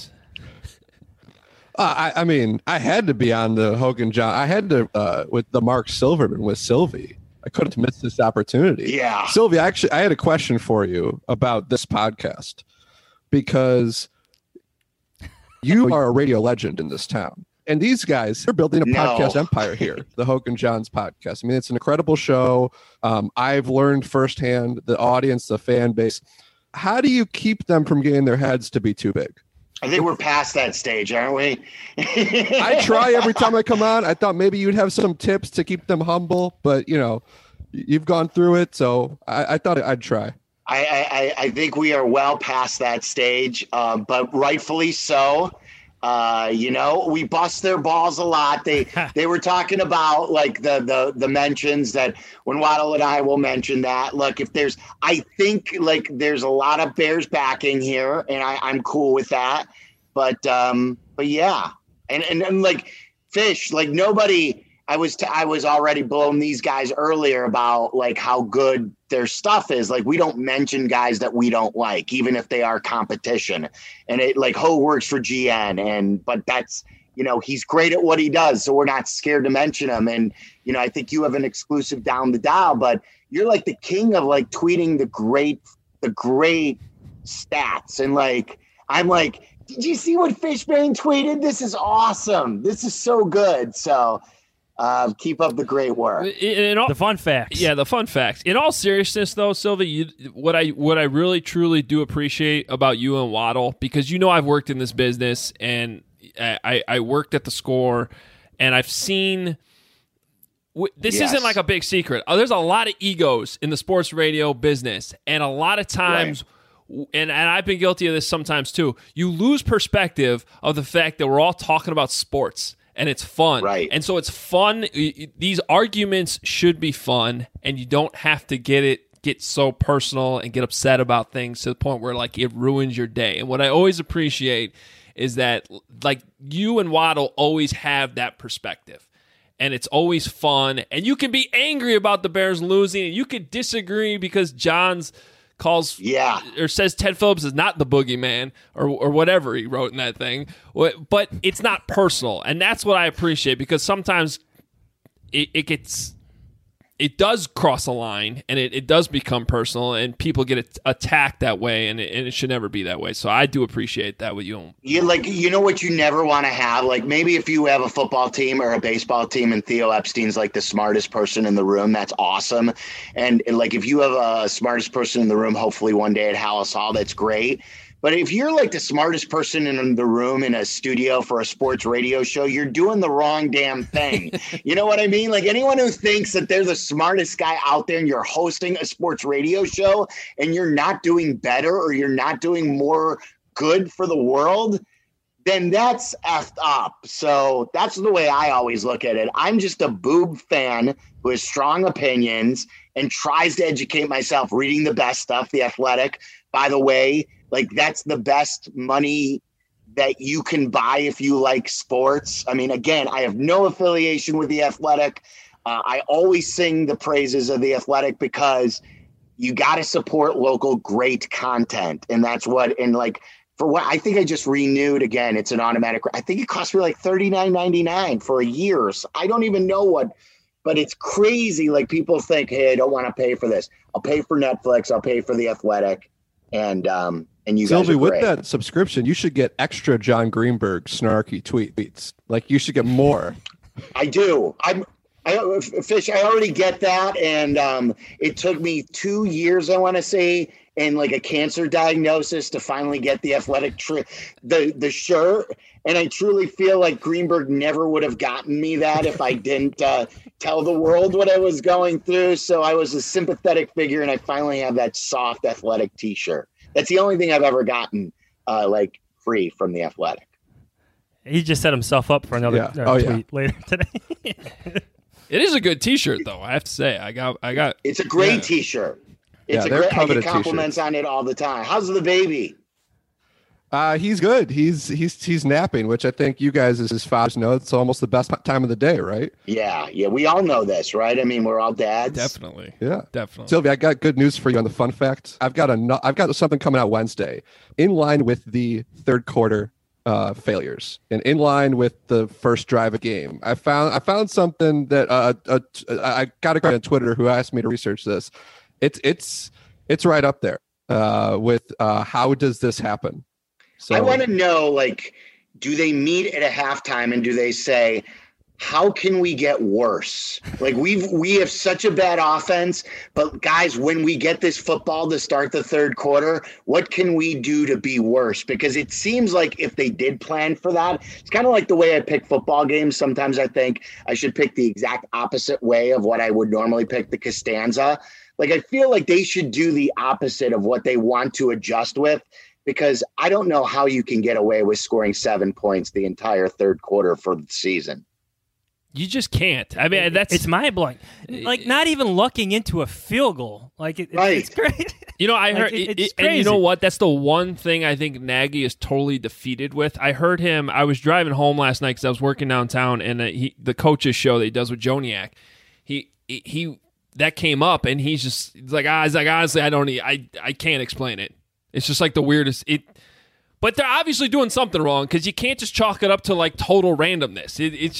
I mean, I had to be on the Hogan John. I had to with the Mark Silverman with Sylvie. I couldn't miss this opportunity. Yeah, Sylvie, actually, I had a question for you about this podcast, because you are a radio legend in this town. And these guys, they're building a podcast empire here, the Hogan Johns podcast. I mean, it's an incredible show. I've learned firsthand, the audience, the fan base. How do you keep them from getting their heads to be too big? I think we're past that stage, aren't we? I try every time I come on. I thought maybe you'd have some tips to keep them humble, but, you've gone through it, so I thought I'd try. I think we are well past that stage, but rightfully so. We bust their balls a lot. They were talking about like the mentions that when Waddle and I will mention that. Look, I think like there's a lot of Bears backing here, and I'm cool with that. But yeah, and like Fish, like nobody. I was already blowing these guys earlier about like how good their stuff is. Like we don't mention guys that we don't like, even if they are competition. And it like Ho works for GN, but that's he's great at what he does, so we're not scared to mention him. And I think you have an exclusive down the dial, but you're like the king of like tweeting the great stats. And like I'm like, did you see what Fishbane tweeted? This is awesome. This is so good. So. Keep up the great work. The fun facts. Yeah, the fun facts. In all seriousness, though, Sylvie, what I really truly do appreciate about you and Waddle, because I've worked in this business, and I worked at the Score, and I've seen. This isn't like a big secret. There's a lot of egos in the sports radio business, and a lot of times. Right. And I've been guilty of this sometimes too. You lose perspective of the fact that we're all talking about sports. And it's fun. Right. And so it's fun. These arguments should be fun, and you don't have to get so personal and get upset about things to the point where like it ruins your day. And what I always appreciate is that like you and Waddle always have that perspective. And it's always fun. And you can be angry about the Bears losing, and you could disagree because John's calls or says Ted Phillips is not the boogeyman or whatever he wrote in that thing, but it's not personal, and that's what I appreciate, because sometimes it does cross a line, and it does become personal, and people get attacked that way, and it should never be that way. So I do appreciate that with you. What you never want to have, like maybe if you have a football team or a baseball team and Theo Epstein's like the smartest person in the room, that's awesome. And like if you have a smartest person in the room, hopefully one day at Hallis Hall, that's great. But if you're like the smartest person in the room in a studio for a sports radio show, you're doing the wrong damn thing. You know what I mean? Like anyone who thinks that they're the smartest guy out there and you're hosting a sports radio show and you're not doing better or you're not doing more good for the world, then that's effed up. So that's the way I always look at it. I'm just a boob fan who has strong opinions and tries to educate myself reading the best stuff, The Athletic, by the way. Like that's the best money that you can buy if you like sports. I mean, again, I have no affiliation with The Athletic. I always sing the praises of The Athletic because you got to support local great content. And that's what, and like for what I think I just renewed again. It's an automatic. I think it cost me like $39.99 for a year. So I don't even know what, but it's crazy. Like people think, hey, I don't want to pay for this. I'll pay for Netflix. I'll pay for The Athletic. And you Sylvie, guys are with great. that subscription, you should get extra John Greenberg snarky tweets. Like you should get more. I do. Fish, I already get that. And it took me 2 years, I want to say, and like a cancer diagnosis to finally get The Athletic the shirt. And I truly feel like Greenberg never would have gotten me that if I didn't tell the world what I was going through. So I was a sympathetic figure, and I finally have that soft Athletic T-shirt. That's the only thing I've ever gotten like free from The Athletic. He just set himself up for another tweet later today. It is a good T-shirt, though. I have to say, I got. It's a great T-shirt. It's a great. I get compliments on it all the time. How's the baby? He's good. He's napping, which I think you guys as his fathers know. It's almost the best time of the day, right? Yeah. We all know this, right? I mean, we're all dads. Definitely. Yeah, definitely. Sylvie, I got good news for you on the fun fact. I've got something coming out Wednesday, in line with the third quarter failures and in line with the first drive of game. I found something that I got a guy on Twitter who asked me to research this. It's right up there with how does this happen? So I want to know, like, do they meet at a halftime and do they say, how can we get worse? Like we have such a bad offense, but guys, when we get this football to start the third quarter, what can we do to be worse? Because it seems like if they did plan for that, it's kind of like the way I pick football games. Sometimes I think I should pick the exact opposite way of what I would normally pick the Costanza. Like, I feel like they should do the opposite of what they want to adjust with, because I don't know how you can get away with scoring 7 points the entire third quarter for the season. You just can't. I mean, it's mind blowing. Like, not even looking into a field goal. Like, it's great. You know, I Like, heard, it's and you crazy. know what? That's the one thing I think Nagy is totally defeated with. I heard him. I was driving home last night because I was working downtown, and the coach's show that he does with Joniak, he that came up, and he's like, honestly, I can't explain it. It's just like the weirdest. But they're obviously doing something wrong, because you can't just chalk it up to like total randomness.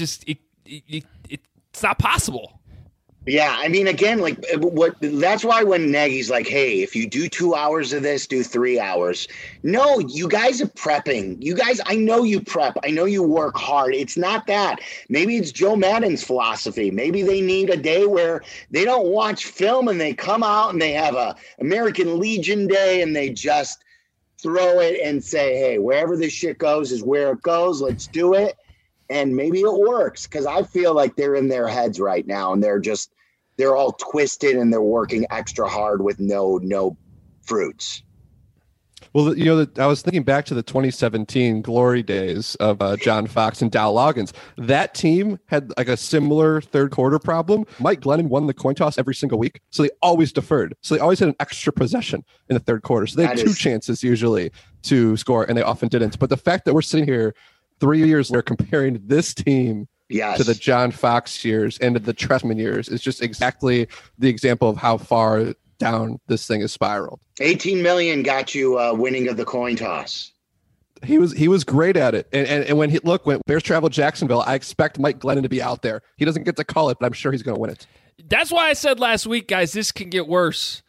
It's not possible. Yeah, I mean, again, like that's why when Nagy's like, hey, if you do 2 hours of this, do 3 hours. No, you guys are prepping. You guys, I know you prep. I know you work hard. It's not that. Maybe it's Joe Madden's philosophy. Maybe they need a day where they don't watch film and they come out and they have a American Legion Day and they just throw it and say, hey, wherever this shit goes is where it goes. Let's do it. And maybe it works, because I feel like they're in their heads right now and they're all twisted and they're working extra hard with no fruits. Well, you know, I was thinking back to the 2017 glory days of John Fox and Dow Loggins. That team had like a similar third quarter problem. Mike Glennon won the coin toss every single week, so they always deferred. So they always had an extra possession in the third quarter. So they had two chances usually to score, and they often didn't. But the fact that we're sitting here 3 years later comparing this team to the John Fox years and to the Trestman years is just exactly the example of how far down this thing is spiraled. 18 million got you winning of the coin toss. He was great at it. And when Bears travel Jacksonville, I expect Mike Glennon to be out there. He doesn't get to call it, but I'm sure he's going to win it. That's why I said last week, guys, this can get worse.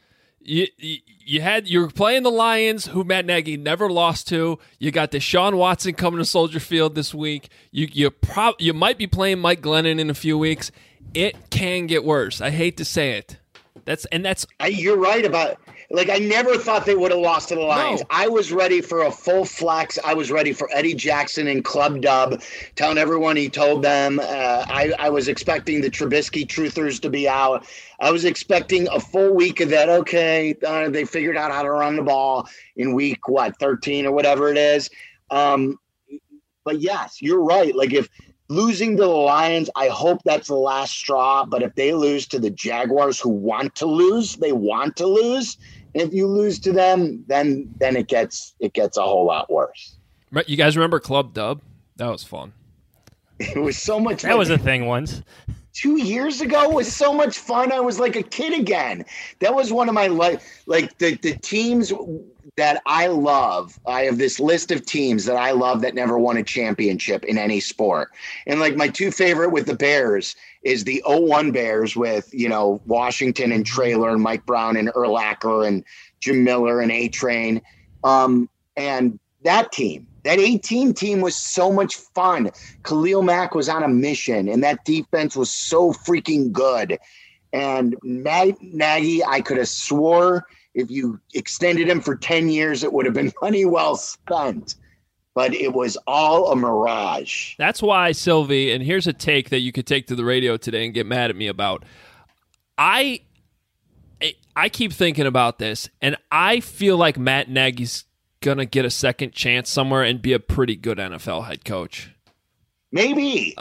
You were playing the Lions, who Matt Nagy never lost to. You got Deshaun Watson coming to Soldier Field this week. You might be playing Mike Glennon in a few weeks. It can get worse. I hate to say it. You're right about. Like, I never thought they would have lost to the Lions. No. I was ready for a full flex. I was ready for Eddie Jackson and Club Dub, telling everyone he told them. I was expecting the Trubisky truthers to be out. I was expecting a full week of that. Okay, they figured out how to run the ball in week, 13 or whatever it is. But yes, you're right. Like, if losing to the Lions, I hope that's the last straw. But if they lose to the Jaguars, who want to lose, they want to lose. If you lose to them, then it gets a whole lot worse. Right, you guys remember Club Dub? That was fun. It was so much. That was a thing once. 2 years ago was so much fun. I was like a kid again. That was one of my the teams that I love. I have this list of teams that I love that never won a championship in any sport. And like my two favorite with the Bears is the 01 Bears with, Washington and Traylor and Mike Brown and Urlacher and Jim Miller and A-Train. And that team, that 18 team was so much fun. Khalil Mack was on a mission, and that defense was so freaking good. And Nagy, I could have swore if you extended him for 10 years, it would have been money well spent. But it was all a mirage. That's why, Sylvie, and here's a take that you could take to the radio today and get mad at me about. I keep thinking about this, and I feel like Matt Nagy's going to get a second chance somewhere and be a pretty good NFL head coach. Maybe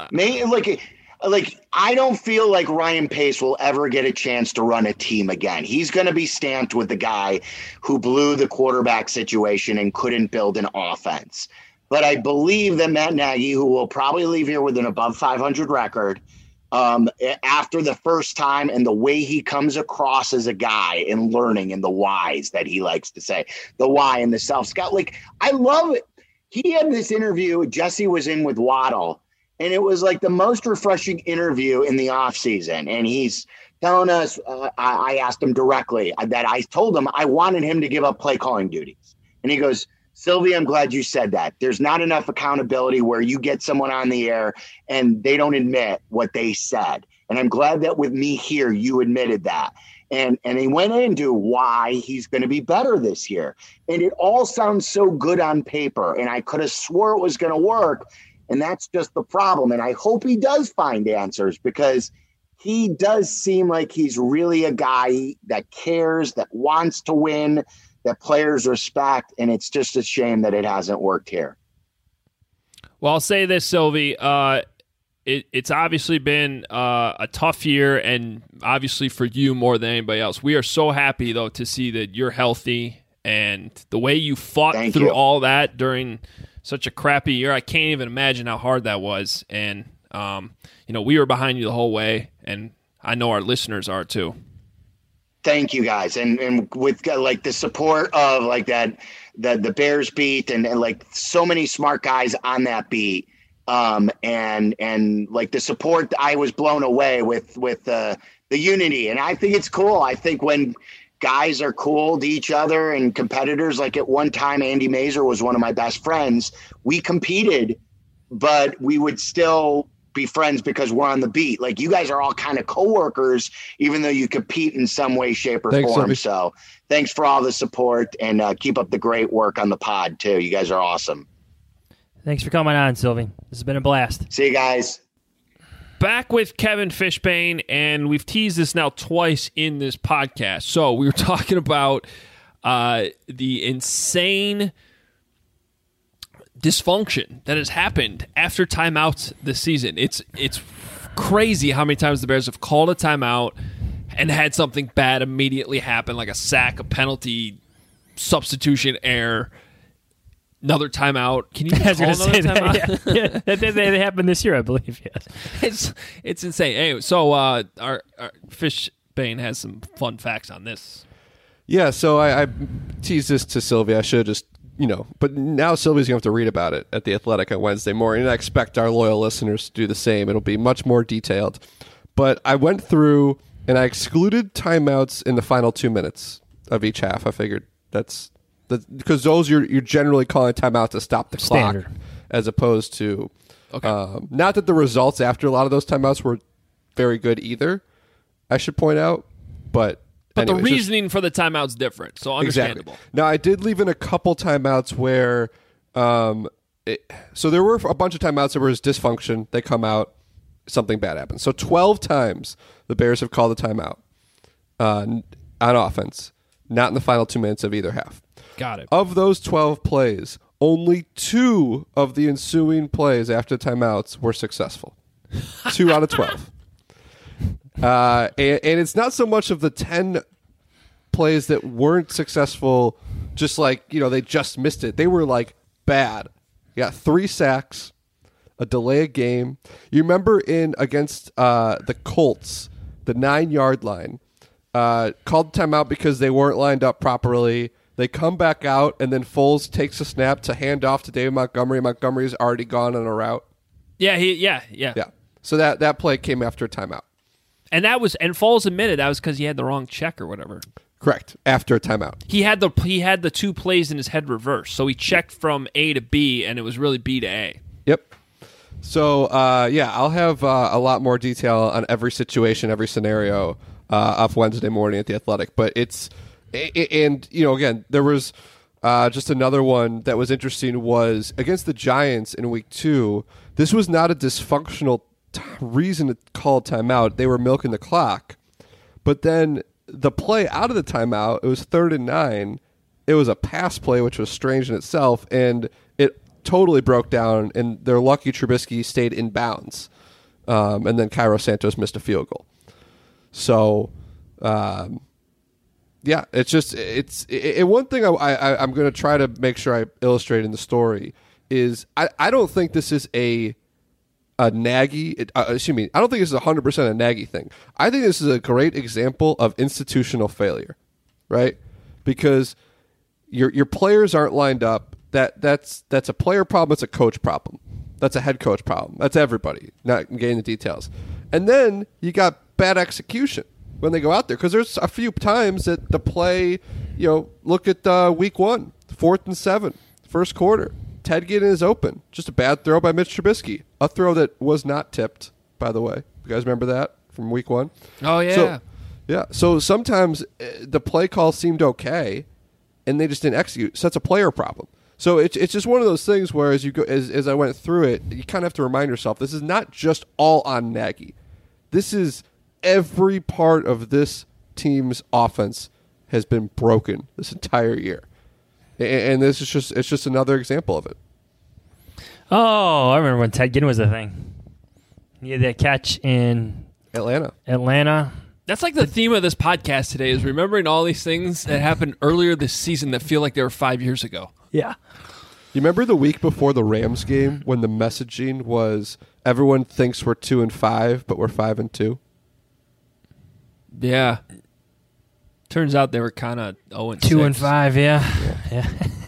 I don't feel like Ryan Pace will ever get a chance to run a team again. He's going to be stamped with the guy who blew the quarterback situation and couldn't build an offense. But I believe that Matt Nagy, who will probably leave here with an above 500 record, after the first time, and the way he comes across as a guy and learning and the whys that he likes to say, the why and the self-scout. Like, I love it. He had this interview Jesse was in with Waddle, and it was like the most refreshing interview in the offseason. And he's telling us, I asked him directly that I told him I wanted him to give up play calling duties. And he goes, Sylvia, I'm glad you said that. There's not enough accountability where you get someone on the air and they don't admit what they said. And I'm glad that with me here, you admitted that. And he went into why he's going to be better this year. And it all sounds so good on paper. And I could have swore it was going to work. And that's just the problem. And I hope he does find answers, because he does seem like he's really a guy that cares, that wants to win, that players respect, and it's just a shame that it hasn't worked here. Well, I'll say this, Sylvie. It's obviously been a tough year, and obviously for you more than anybody else. We are so happy, though, to see that you're healthy, and the way you fought through all that during such a crappy year. I can't even imagine how hard that was. And, we were behind you the whole way, and I know our listeners are too. Thank you, guys. And with like the support of like that, the Bears beat and like so many smart guys on that beat. And like the support, I was blown away with the unity. And I think it's cool. I think when guys are cool to each other and competitors, like at one time, Andy Mazer was one of my best friends. We competed, but we would still be friends because we're on the beat. Like you guys are all kind of coworkers, even though you compete in some way, shape, or form. Sylvie. So thanks for all the support, and keep up the great work on the pod too. You guys are awesome. Thanks for coming on, Sylvie. This has been a blast. See you guys. Back with Kevin Fishbane, and we've teased this now twice in this podcast. So we were talking about the insane dysfunction that has happened after timeouts this season. It's crazy how many times the Bears have called a timeout and had something bad immediately happen, like a sack, a penalty, substitution error, another timeout. Can you call another timeout? Yeah. They happened this year, I believe. Yes, it's insane. Anyway, so our Fishbane has some fun facts on this. Yeah, so I teased this to Sylvia. I should have just, but now Sylvia's going to have to read about it at The Athletic on Wednesday morning, and I expect our loyal listeners to do the same. It'll be much more detailed. But I went through and I excluded timeouts in the final 2 minutes of each half. I figured that's because those you're generally calling timeout to stop the clock, as opposed to not that the results after a lot of those timeouts were very good either, I should point out, but the reasoning for the timeout's different, so understandable. Exactly. Now, I did leave in a couple timeouts where so there were a bunch of timeouts where there was dysfunction. They come out, something bad happens. So 12 times the Bears have called a timeout on offense, not in the final 2 minutes of either half. Got it. Of those 12 plays, only 2 of the ensuing plays after timeouts were successful. 2 out of 12. And it's not so much of the 10 plays that weren't successful, just like, they just missed it. They were like bad. You got 3 sacks, a delay of game. You remember against the Colts, the 9-yard line, called timeout because they weren't lined up properly. They come back out, and then Foles takes a snap to hand off to David Montgomery. Montgomery's already gone on a route. Yeah. So that play came after a timeout. And Foles admitted that was because he had the wrong check or whatever. Correct. After a timeout. He had the two plays in his head reversed. So he checked from A to B, and it was really B to A. Yep. So, I'll have a lot more detail on every situation, every scenario off Wednesday morning at The Athletic. But again, there was just another one that was interesting was against the Giants in week 2. This was not a dysfunctional reason to call timeout. They were milking the clock. But then the play out of the timeout, it was 3rd and 9. It was a pass play, which was strange in itself, and it totally broke down, and they're lucky Trubisky stayed in bounds. And then Cairo Santos missed a field goal. So, it's just one thing I'm going to try to make sure I illustrate in the story is I don't think this is a Nagy. I don't think this is 100% a Nagy thing. I think this is a great example of institutional failure, right? Because your players aren't lined up. That's a player problem. It's a coach problem. That's a head coach problem. That's everybody, not getting the details. And then you got bad execution when they go out there, because there's a few times that the play, look at week 1, 4th and 7, first quarter. Ted Ginn is open. Just a bad throw by Mitch Trubisky. A throw that was not tipped, by the way. You guys remember that from week 1? Oh, yeah. So sometimes the play call seemed okay, and they just didn't execute. So that's a player problem. So it's just one of those things where as you go, as I went through it, you kind of have to remind yourself, this is not just all on Nagy. This is every part of this team's offense has been broken this entire year. And this is just another example of it. Oh, I remember when Ted Ginn was a thing. He had that catch in Atlanta. That's like the theme of this podcast today, is remembering all these things that happened earlier this season that feel like they were 5 years ago. Yeah. You remember the week before the Rams game when the messaging was everyone thinks we're 2-5, but we're 5-2? Yeah. Turns out they were kind of 0-6. 2-5, yeah.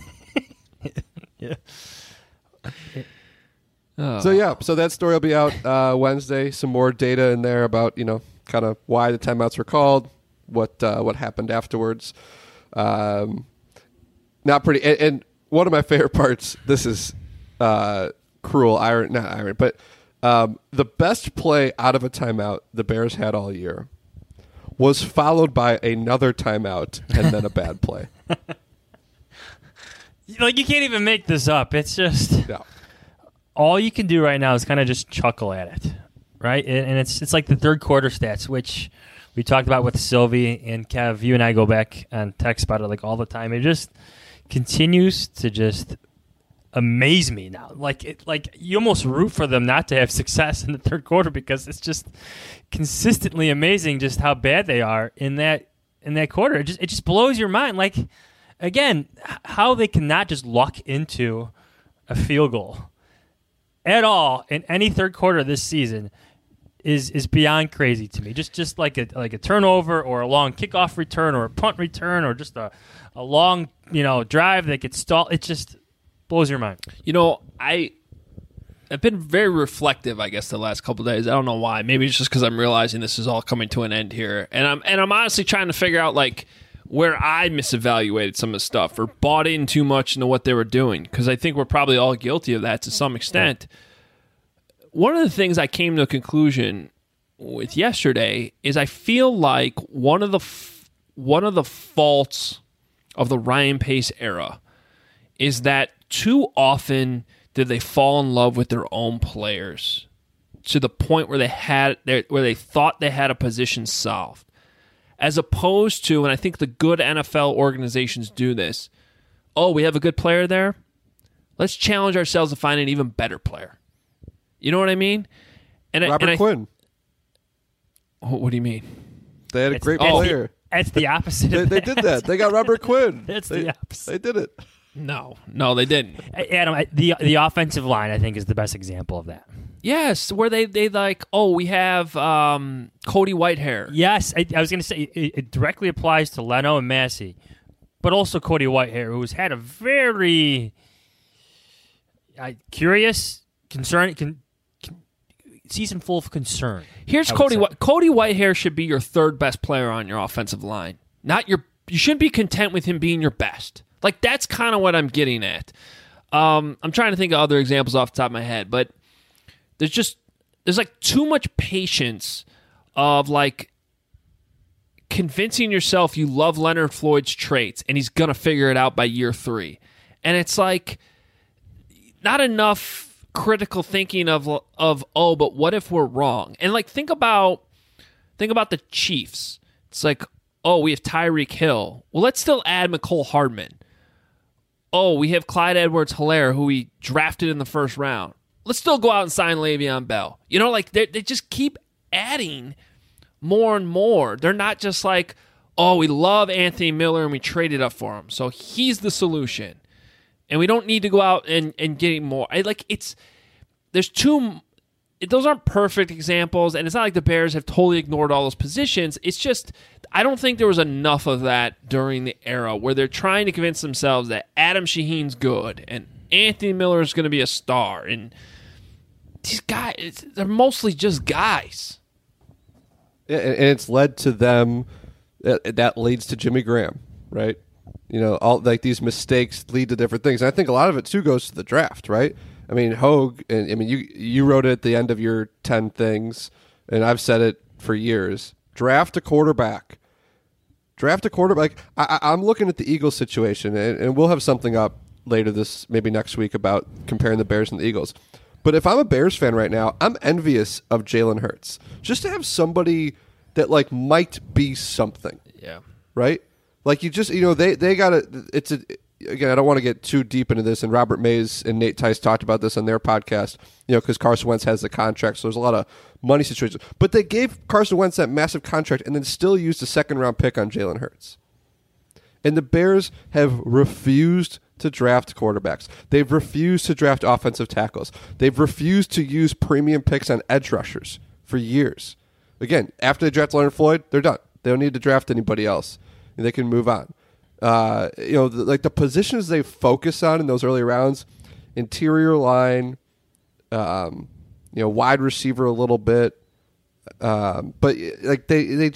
Oh. So that story will be out Wednesday. Some more data in there about kind of why the timeouts were called, what happened afterwards. Not pretty. And one of my favorite parts. This is cruel, not irony, but the best play out of a timeout the Bears had all year was followed by another timeout and then a bad play. Like, you can't even make this up. It's just all you can do right now is kind of just chuckle at it, right? And it's like the third quarter stats, which we talked about with Sylvie and Kev. You and I go back and text about it like all the time. It just continues to just amaze me now. Like you almost root for them not to have success in the third quarter, because it's just consistently amazing just how bad they are in that quarter. It just blows your mind. Like, again, how they cannot just luck into a field goal at all in any third quarter this season is beyond crazy to me. Just like a turnover or a long kickoff return or a punt return or just a long drive that gets stalled. It just blows your mind. I've been very reflective, I guess, the last couple of days. I don't know why. Maybe it's just because I'm realizing this is all coming to an end here, and I'm honestly trying to figure out like where I misevaluated some of the stuff or bought in too much into what they were doing, because I think we're probably all guilty of that to some extent. One of the things I came to a conclusion with yesterday is I feel like one of the faults of the Ryan Pace era is that too often did they fall in love with their own players to the point where they thought they had a position solved, as opposed to, and I think the good NFL organizations do this, we have a good player there, let's challenge ourselves to find an even better player. You know what I mean? Robert Quinn. What do you mean? They had a great player. That's the opposite. They did that. They got Robert Quinn. That's the opposite. They did it. No, they didn't. Adam, the offensive line, I think, is the best example of that. Yes, where they like, we have Cody Whitehair. Yes, I was going to say it directly applies to Leno and Massey, but also Cody Whitehair, who's had a very curious, concern, season full of concern. Here's Cody. Cody Whitehair should be your third best player on your offensive line. You shouldn't be content with him being your best. Like, that's kind of what I'm getting at. I'm trying to think of other examples off the top of my head, but there's like too much patience of like convincing yourself you love Leonard Floyd's traits and he's gonna figure it out by year 3, and it's like not enough critical thinking of but what if we're wrong? And like think about the Chiefs. It's like, we have Tyreek Hill. Well, let's still add McCole Hardman. We have Clyde Edwards-Helaire, who we drafted in the first round. Let's still go out and sign Le'Veon Bell. You know, like they just keep adding more and more. They're not just like, we love Anthony Miller and we traded up for him, so he's the solution, and we don't need to go out and get him more. Those aren't perfect examples, and it's not like the Bears have totally ignored all those positions. It's just I don't think there was enough of that during the era where they're trying to convince themselves that Adam Shaheen's good and Anthony Miller is going to be a star, and these guys, they're mostly just guys. Yeah, and it's led to them. That leads to Jimmy Graham, right? You know, all like these mistakes lead to different things. And I think a lot of it too goes to the draft, right? I mean, Hogue, and I mean, you wrote it at the end of your 10 things, and I've said it for years. Draft a quarterback. I'm looking at the Eagles situation, and we'll have something up later maybe next week about comparing the Bears and the Eagles. But if I'm a Bears fan right now, I'm envious of Jalen Hurts. Just to have somebody that like might be something. Yeah. Right? Like you just, they got to, again, I don't want to get too deep into this, and Robert Mays and Nate Tice talked about this on their podcast, because Carson Wentz has the contract, so there's a lot of money situations. But they gave Carson Wentz that massive contract and then still used a second-round pick on Jalen Hurts. And the Bears have refused to draft quarterbacks. They've refused to draft offensive tackles. They've refused to use premium picks on edge rushers for years. Again, after they draft Leonard Floyd, they're done. They don't need to draft anybody else. They can move on. The positions they focus on in those early rounds, interior line, wide receiver a little bit, but like they've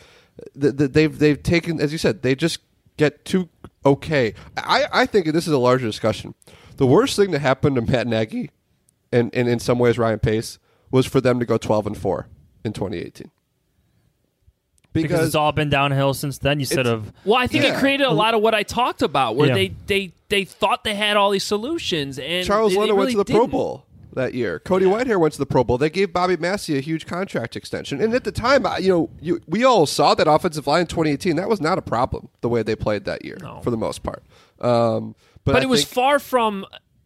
taken, as you said, they just get too okay. I think, and this is a larger discussion, the worst thing that happened to Matt Nagy and in some ways Ryan Pace was for them to go 12-4 in 2018. Because it's all been downhill since then. Well, I think it created a lot of what I talked about, where they thought they had all these solutions, and Charles Leno really went to the didn't. Pro Bowl that year. Cody Whitehair went to the Pro Bowl. They gave Bobby Massey a huge contract extension, and at the time, we all saw that offensive line in 2018. That was not a problem the way they played that year for the most part. But it was far from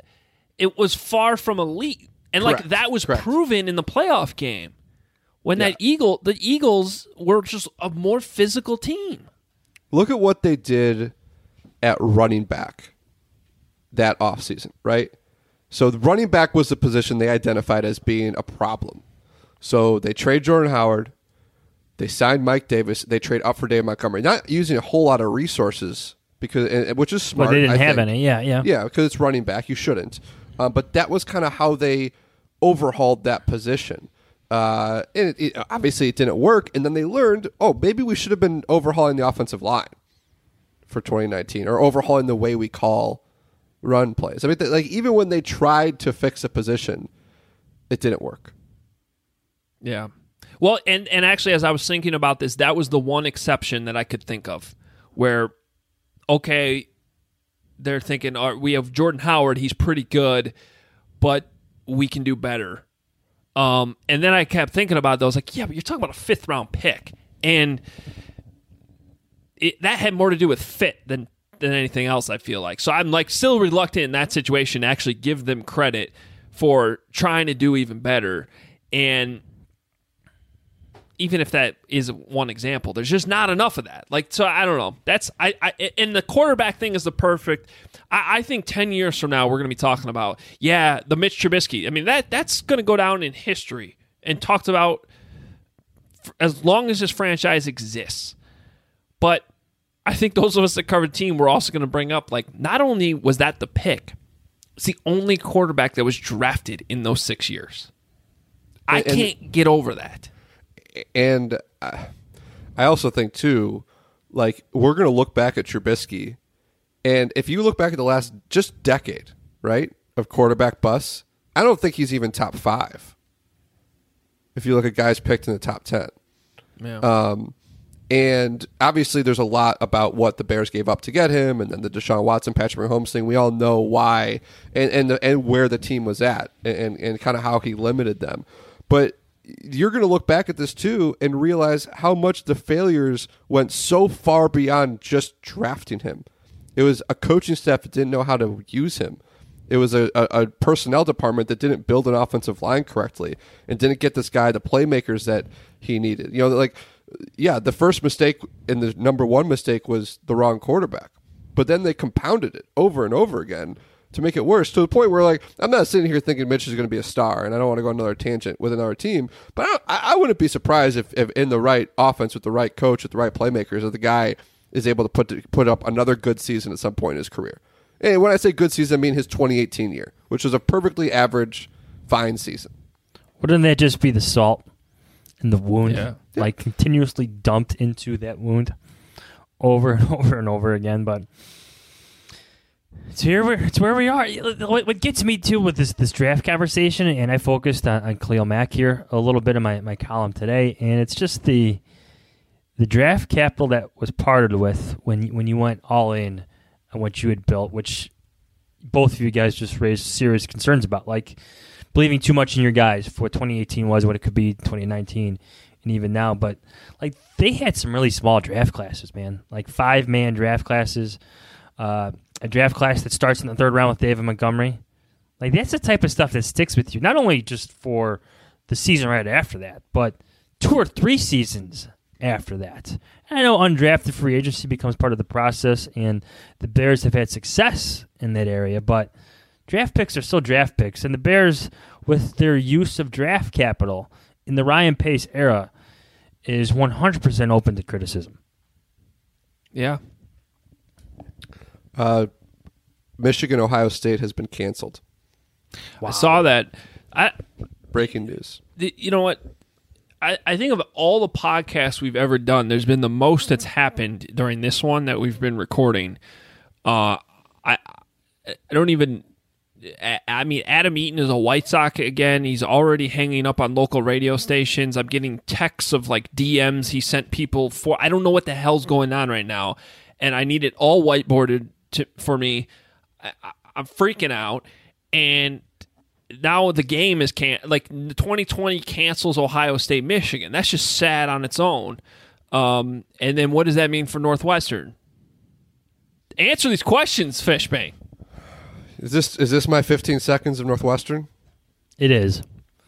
elite, and Correct. like that was proven in the playoff game. When the Eagles were just a more physical team. Look at what they did at running back that offseason, right? So the running back was the position they identified as being a problem. So they trade Jordan Howard. They signed Mike Davis. They trade up for Dave Montgomery. Not using a whole lot of resources, which is smart. But they didn't have any, yeah. Yeah, because it's running back. You shouldn't. But that was kind of how they overhauled that position. And obviously it didn't work, and then they learned, maybe we should have been overhauling the offensive line for 2019, or overhauling the way we call run plays. I mean, even when they tried to fix a position, it didn't work. Yeah. Well, and actually, as I was thinking about this, that was the one exception that I could think of where, they're thinking, we have Jordan Howard, he's pretty good, but we can do better. And then I kept thinking about those, like, yeah, but you're talking about a 5th round pick, and that had more to do with fit than anything else, I feel like. So I'm like still reluctant in that situation to actually give them credit for trying to do even better. And even if that is one example, there's just not enough of that. Like, so I don't know. That's and the quarterback thing is the perfect. I think 10 years from now we're going to be talking about the Mitch Trubisky. I mean that's going to go down in history and talked about as long as this franchise exists. But I think those of us that cover the team were also going to bring up, like, not only was that the pick, it's the only quarterback that was drafted in those 6 years. I can't get over that. And I also think, too, like, we're going to look back at Trubisky, and if you look back at the last just decade, right, of quarterback busts, I don't think he's even top 5. If you look at guys picked in the top 10. Yeah. And obviously there's a lot about what the Bears gave up to get him, and then the Deshaun Watson, Patrick Mahomes thing. We all know why and where the team was at and kind of how he limited them. But you're going to look back at this too and realize how much the failures went so far beyond just drafting him. It was a coaching staff that didn't know how to use him. It was a personnel department that didn't build an offensive line correctly and didn't get this guy the playmakers that he needed. You know, like, yeah, the first mistake and the number one mistake was the wrong quarterback. But then they compounded it over and over again to make it worse, to the point where, like, I'm not sitting here thinking Mitch is going to be a star, and I don't want to go on another tangent with another team, but I wouldn't be surprised if in the right offense with the right coach, with the right playmakers, that the guy is able to put up another good season at some point in his career. And when I say good season, I mean his 2018 year, which was a perfectly average, fine season. Wouldn't that just be the salt in the wound? Yeah. Like, continuously dumped into that wound over and over and over again. But it's where we are. What gets me, too, with this draft conversation, and I focused on Khalil Mack here a little bit in my column today, and it's just the draft capital that was parted with when you went all in on what you had built, which both of you guys just raised serious concerns about, like believing too much in your guys for what 2018 was, what it could be 2019, and even now. But, like, they had some really small draft classes, man, like 5-man draft classes, a draft class that starts in the 3rd round with David Montgomery. Like, that's the type of stuff that sticks with you, not only just for the season right after that, but 2 or 3 seasons after that. And I know undrafted free agency becomes part of the process, and the Bears have had success in that area, but draft picks are still draft picks, and the Bears, with their use of draft capital in the Ryan Pace era, is 100% open to criticism. Yeah. Michigan, Ohio State has been canceled. Wow. I saw that. Breaking news. You know what? I think of all the podcasts we've ever done, there's been the most that's happened during this one that we've been recording. I don't even. I mean, Adam Eaton is a White Sox again. He's already hanging up on local radio stations. I'm getting texts of, like, DMs he sent people for. I don't know what the hell's going on right now, and I need it all whiteboarded for me. I'm freaking out, and now the game is like 2020 cancels Ohio State, Michigan. That's just sad on its own. And then what does that mean for Northwestern? Answer these questions, Fishbane. Is this my 15 seconds of Northwestern? It is.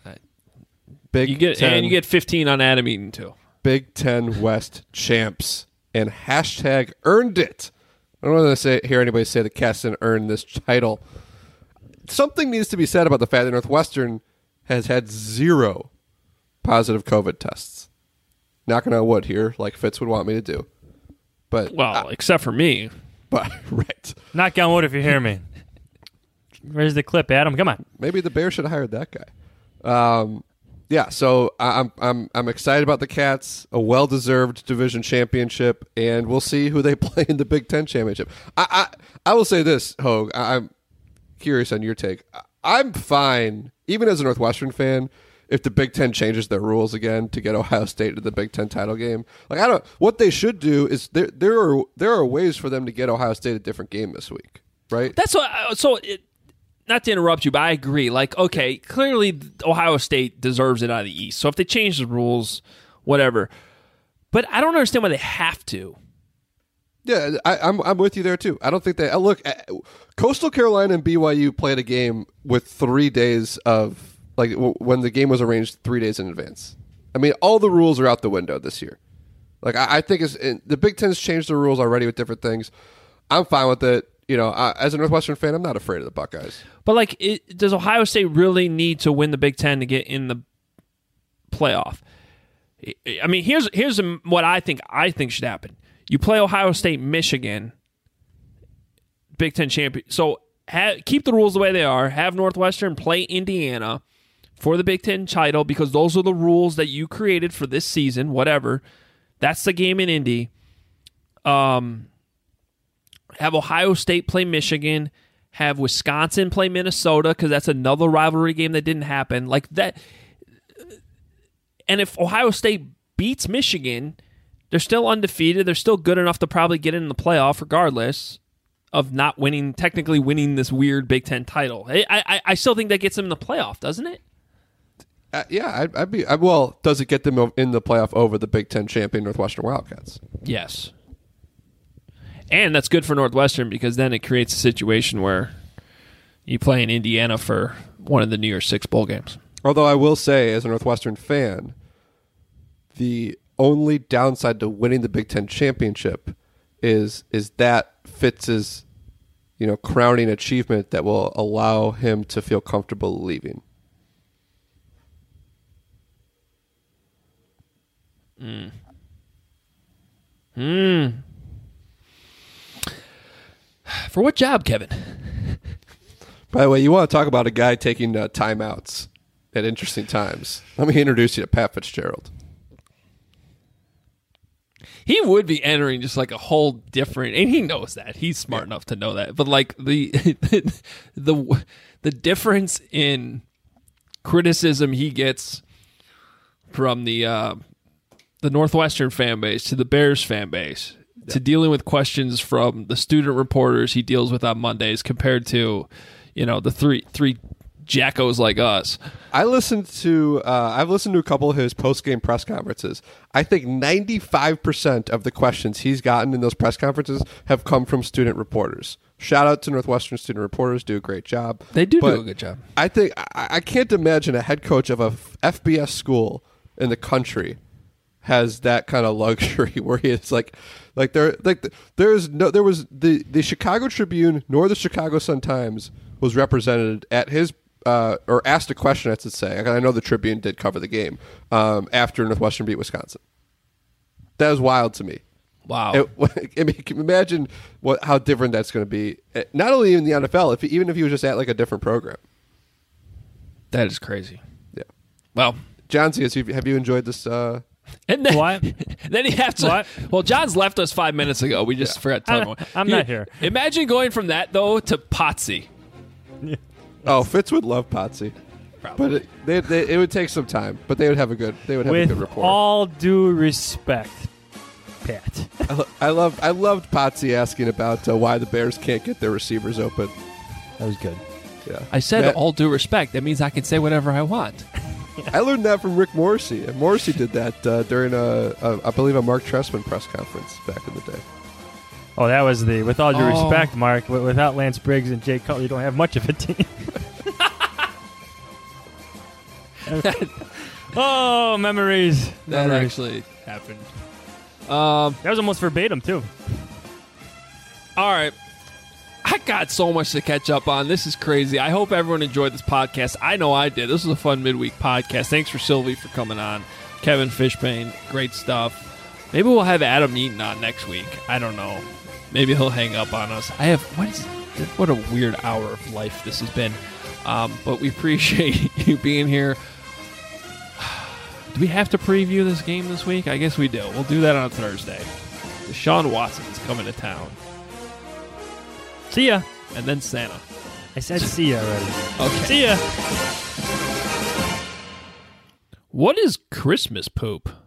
Big 10, and you get 15 on Adam Eaton too. Big 10 West champs and hashtag earned it. I don't want to hear anybody say the Cats didn't earn this title. Something needs to be said about the fact that Northwestern has had 0 positive COVID tests. Knocking on wood here, like Fitz would want me to do. But except for me. But right. Knock on wood if you hear me. Where's the clip, Adam? Come on. Maybe the Bears should have hired that guy. Yeah, so I'm excited about the Cats, a well-deserved division championship, and we'll see who they play in the Big Ten championship. I will say this, Hogue. I'm curious on your take. I'm fine, even as a Northwestern fan, if the Big Ten changes their rules again to get Ohio State to the Big Ten title game. Like, what they should do is there are ways for them to get Ohio State a different game this week, right? That's what. Not to interrupt you, but I agree. Like, okay, clearly Ohio State deserves it out of the East. So if they change the rules, whatever. But I don't understand why they have to. Yeah, I'm with you there too. I don't think they look. Coastal Carolina and BYU played a game with 3 days of, like, when the game was arranged 3 days in advance. I mean, all the rules are out the window this year. Like, I think the Big Ten's changed the rules already with different things. I'm fine with it. You know, as a Northwestern fan, I'm not afraid of the Buckeyes. But, like, does Ohio State really need to win the Big Ten to get in the playoff? I mean, here's what I think should happen. You play Ohio State, Michigan, Big Ten champion. So keep the rules the way they are. Have Northwestern play Indiana for the Big Ten title because those are the rules that you created for this season, whatever. That's the game in Indy. Have Ohio State play Michigan. Have Wisconsin play Minnesota because that's another rivalry game that didn't happen. Like that. And if Ohio State beats Michigan, they're still undefeated. They're still good enough to probably get in the playoff regardless of not technically winning this weird Big Ten title. I still think that gets them in the playoff, doesn't it? Yeah, well, does it get them in the playoff over the Big Ten champion Northwestern Wildcats? Yes. And that's good for Northwestern because then it creates a situation where you play in Indiana for one of the New Year's Six bowl games. Although I will say, as a Northwestern fan, the only downside to winning the Big Ten championship is that Fitz's, crowning achievement that will allow him to feel comfortable leaving. For what job, Kevin? By the way, you want to talk about a guy taking timeouts at interesting times. Let me introduce you to Pat Fitzgerald. He would be entering just like a whole different, and he knows that. He's smart enough to know that. But like the difference in criticism he gets from the Northwestern fan base to the Bears fan base to dealing with questions from the student reporters he deals with on Mondays compared to, the three jackos like us. I've listened to a couple of his post-game press conferences. I think 95% of the questions he's gotten in those press conferences have come from student reporters. Shout out to Northwestern student reporters, do a great job. They do a good job. I think I can't imagine a head coach of a FBS school in the country has that kind of luxury where he is there was the Chicago Tribune nor the Chicago Sun-Times was represented at his or asked a question, I should say. I know the Tribune did cover the game after Northwestern beat Wisconsin. That was wild to me. Wow. I mean, can you imagine how different that's going to be? Not only in the NFL, even if he was just at like a different program. That is crazy. Yeah. Well, John, have you enjoyed this? And then, what? Then you have to. What? Well, John's left us 5 minutes ago. We just forgot to tell him. I'm not here. Imagine going from that though to Potsy. Yeah. Oh, Fitz would love Potsy, but it would take some time. But they would have a good With rapport. all due respect, Pat. I loved Potsy asking about why the Bears can't get their receivers open. That was good. Yeah, I said all due respect. That means I can say whatever I want. I learned that from Rick Morrissey, and Morrissey did that during I believe a Mark Trestman press conference back in the day. Oh, that was with all due respect, Mark. Without Lance Briggs and Jay Cutler, you don't have much of a team. Oh, memories. That actually happened. That was almost verbatim, too. All right. I got so much to catch up on. This is crazy. I hope everyone enjoyed this podcast. I know I did. This was a fun midweek podcast. Thanks for Sylvie for coming on. Kevin Fishbane, great stuff. Maybe we'll have Adam Eaton on next week. I don't know. Maybe he'll hang up on us. What a weird hour of life this has been. But we appreciate you being here. Do we have to preview this game this week? I guess we do. We'll do that on Thursday. Deshaun Watson's coming to town. See ya. And then Santa. I said see ya already. Okay. See ya. What is Christmas poop?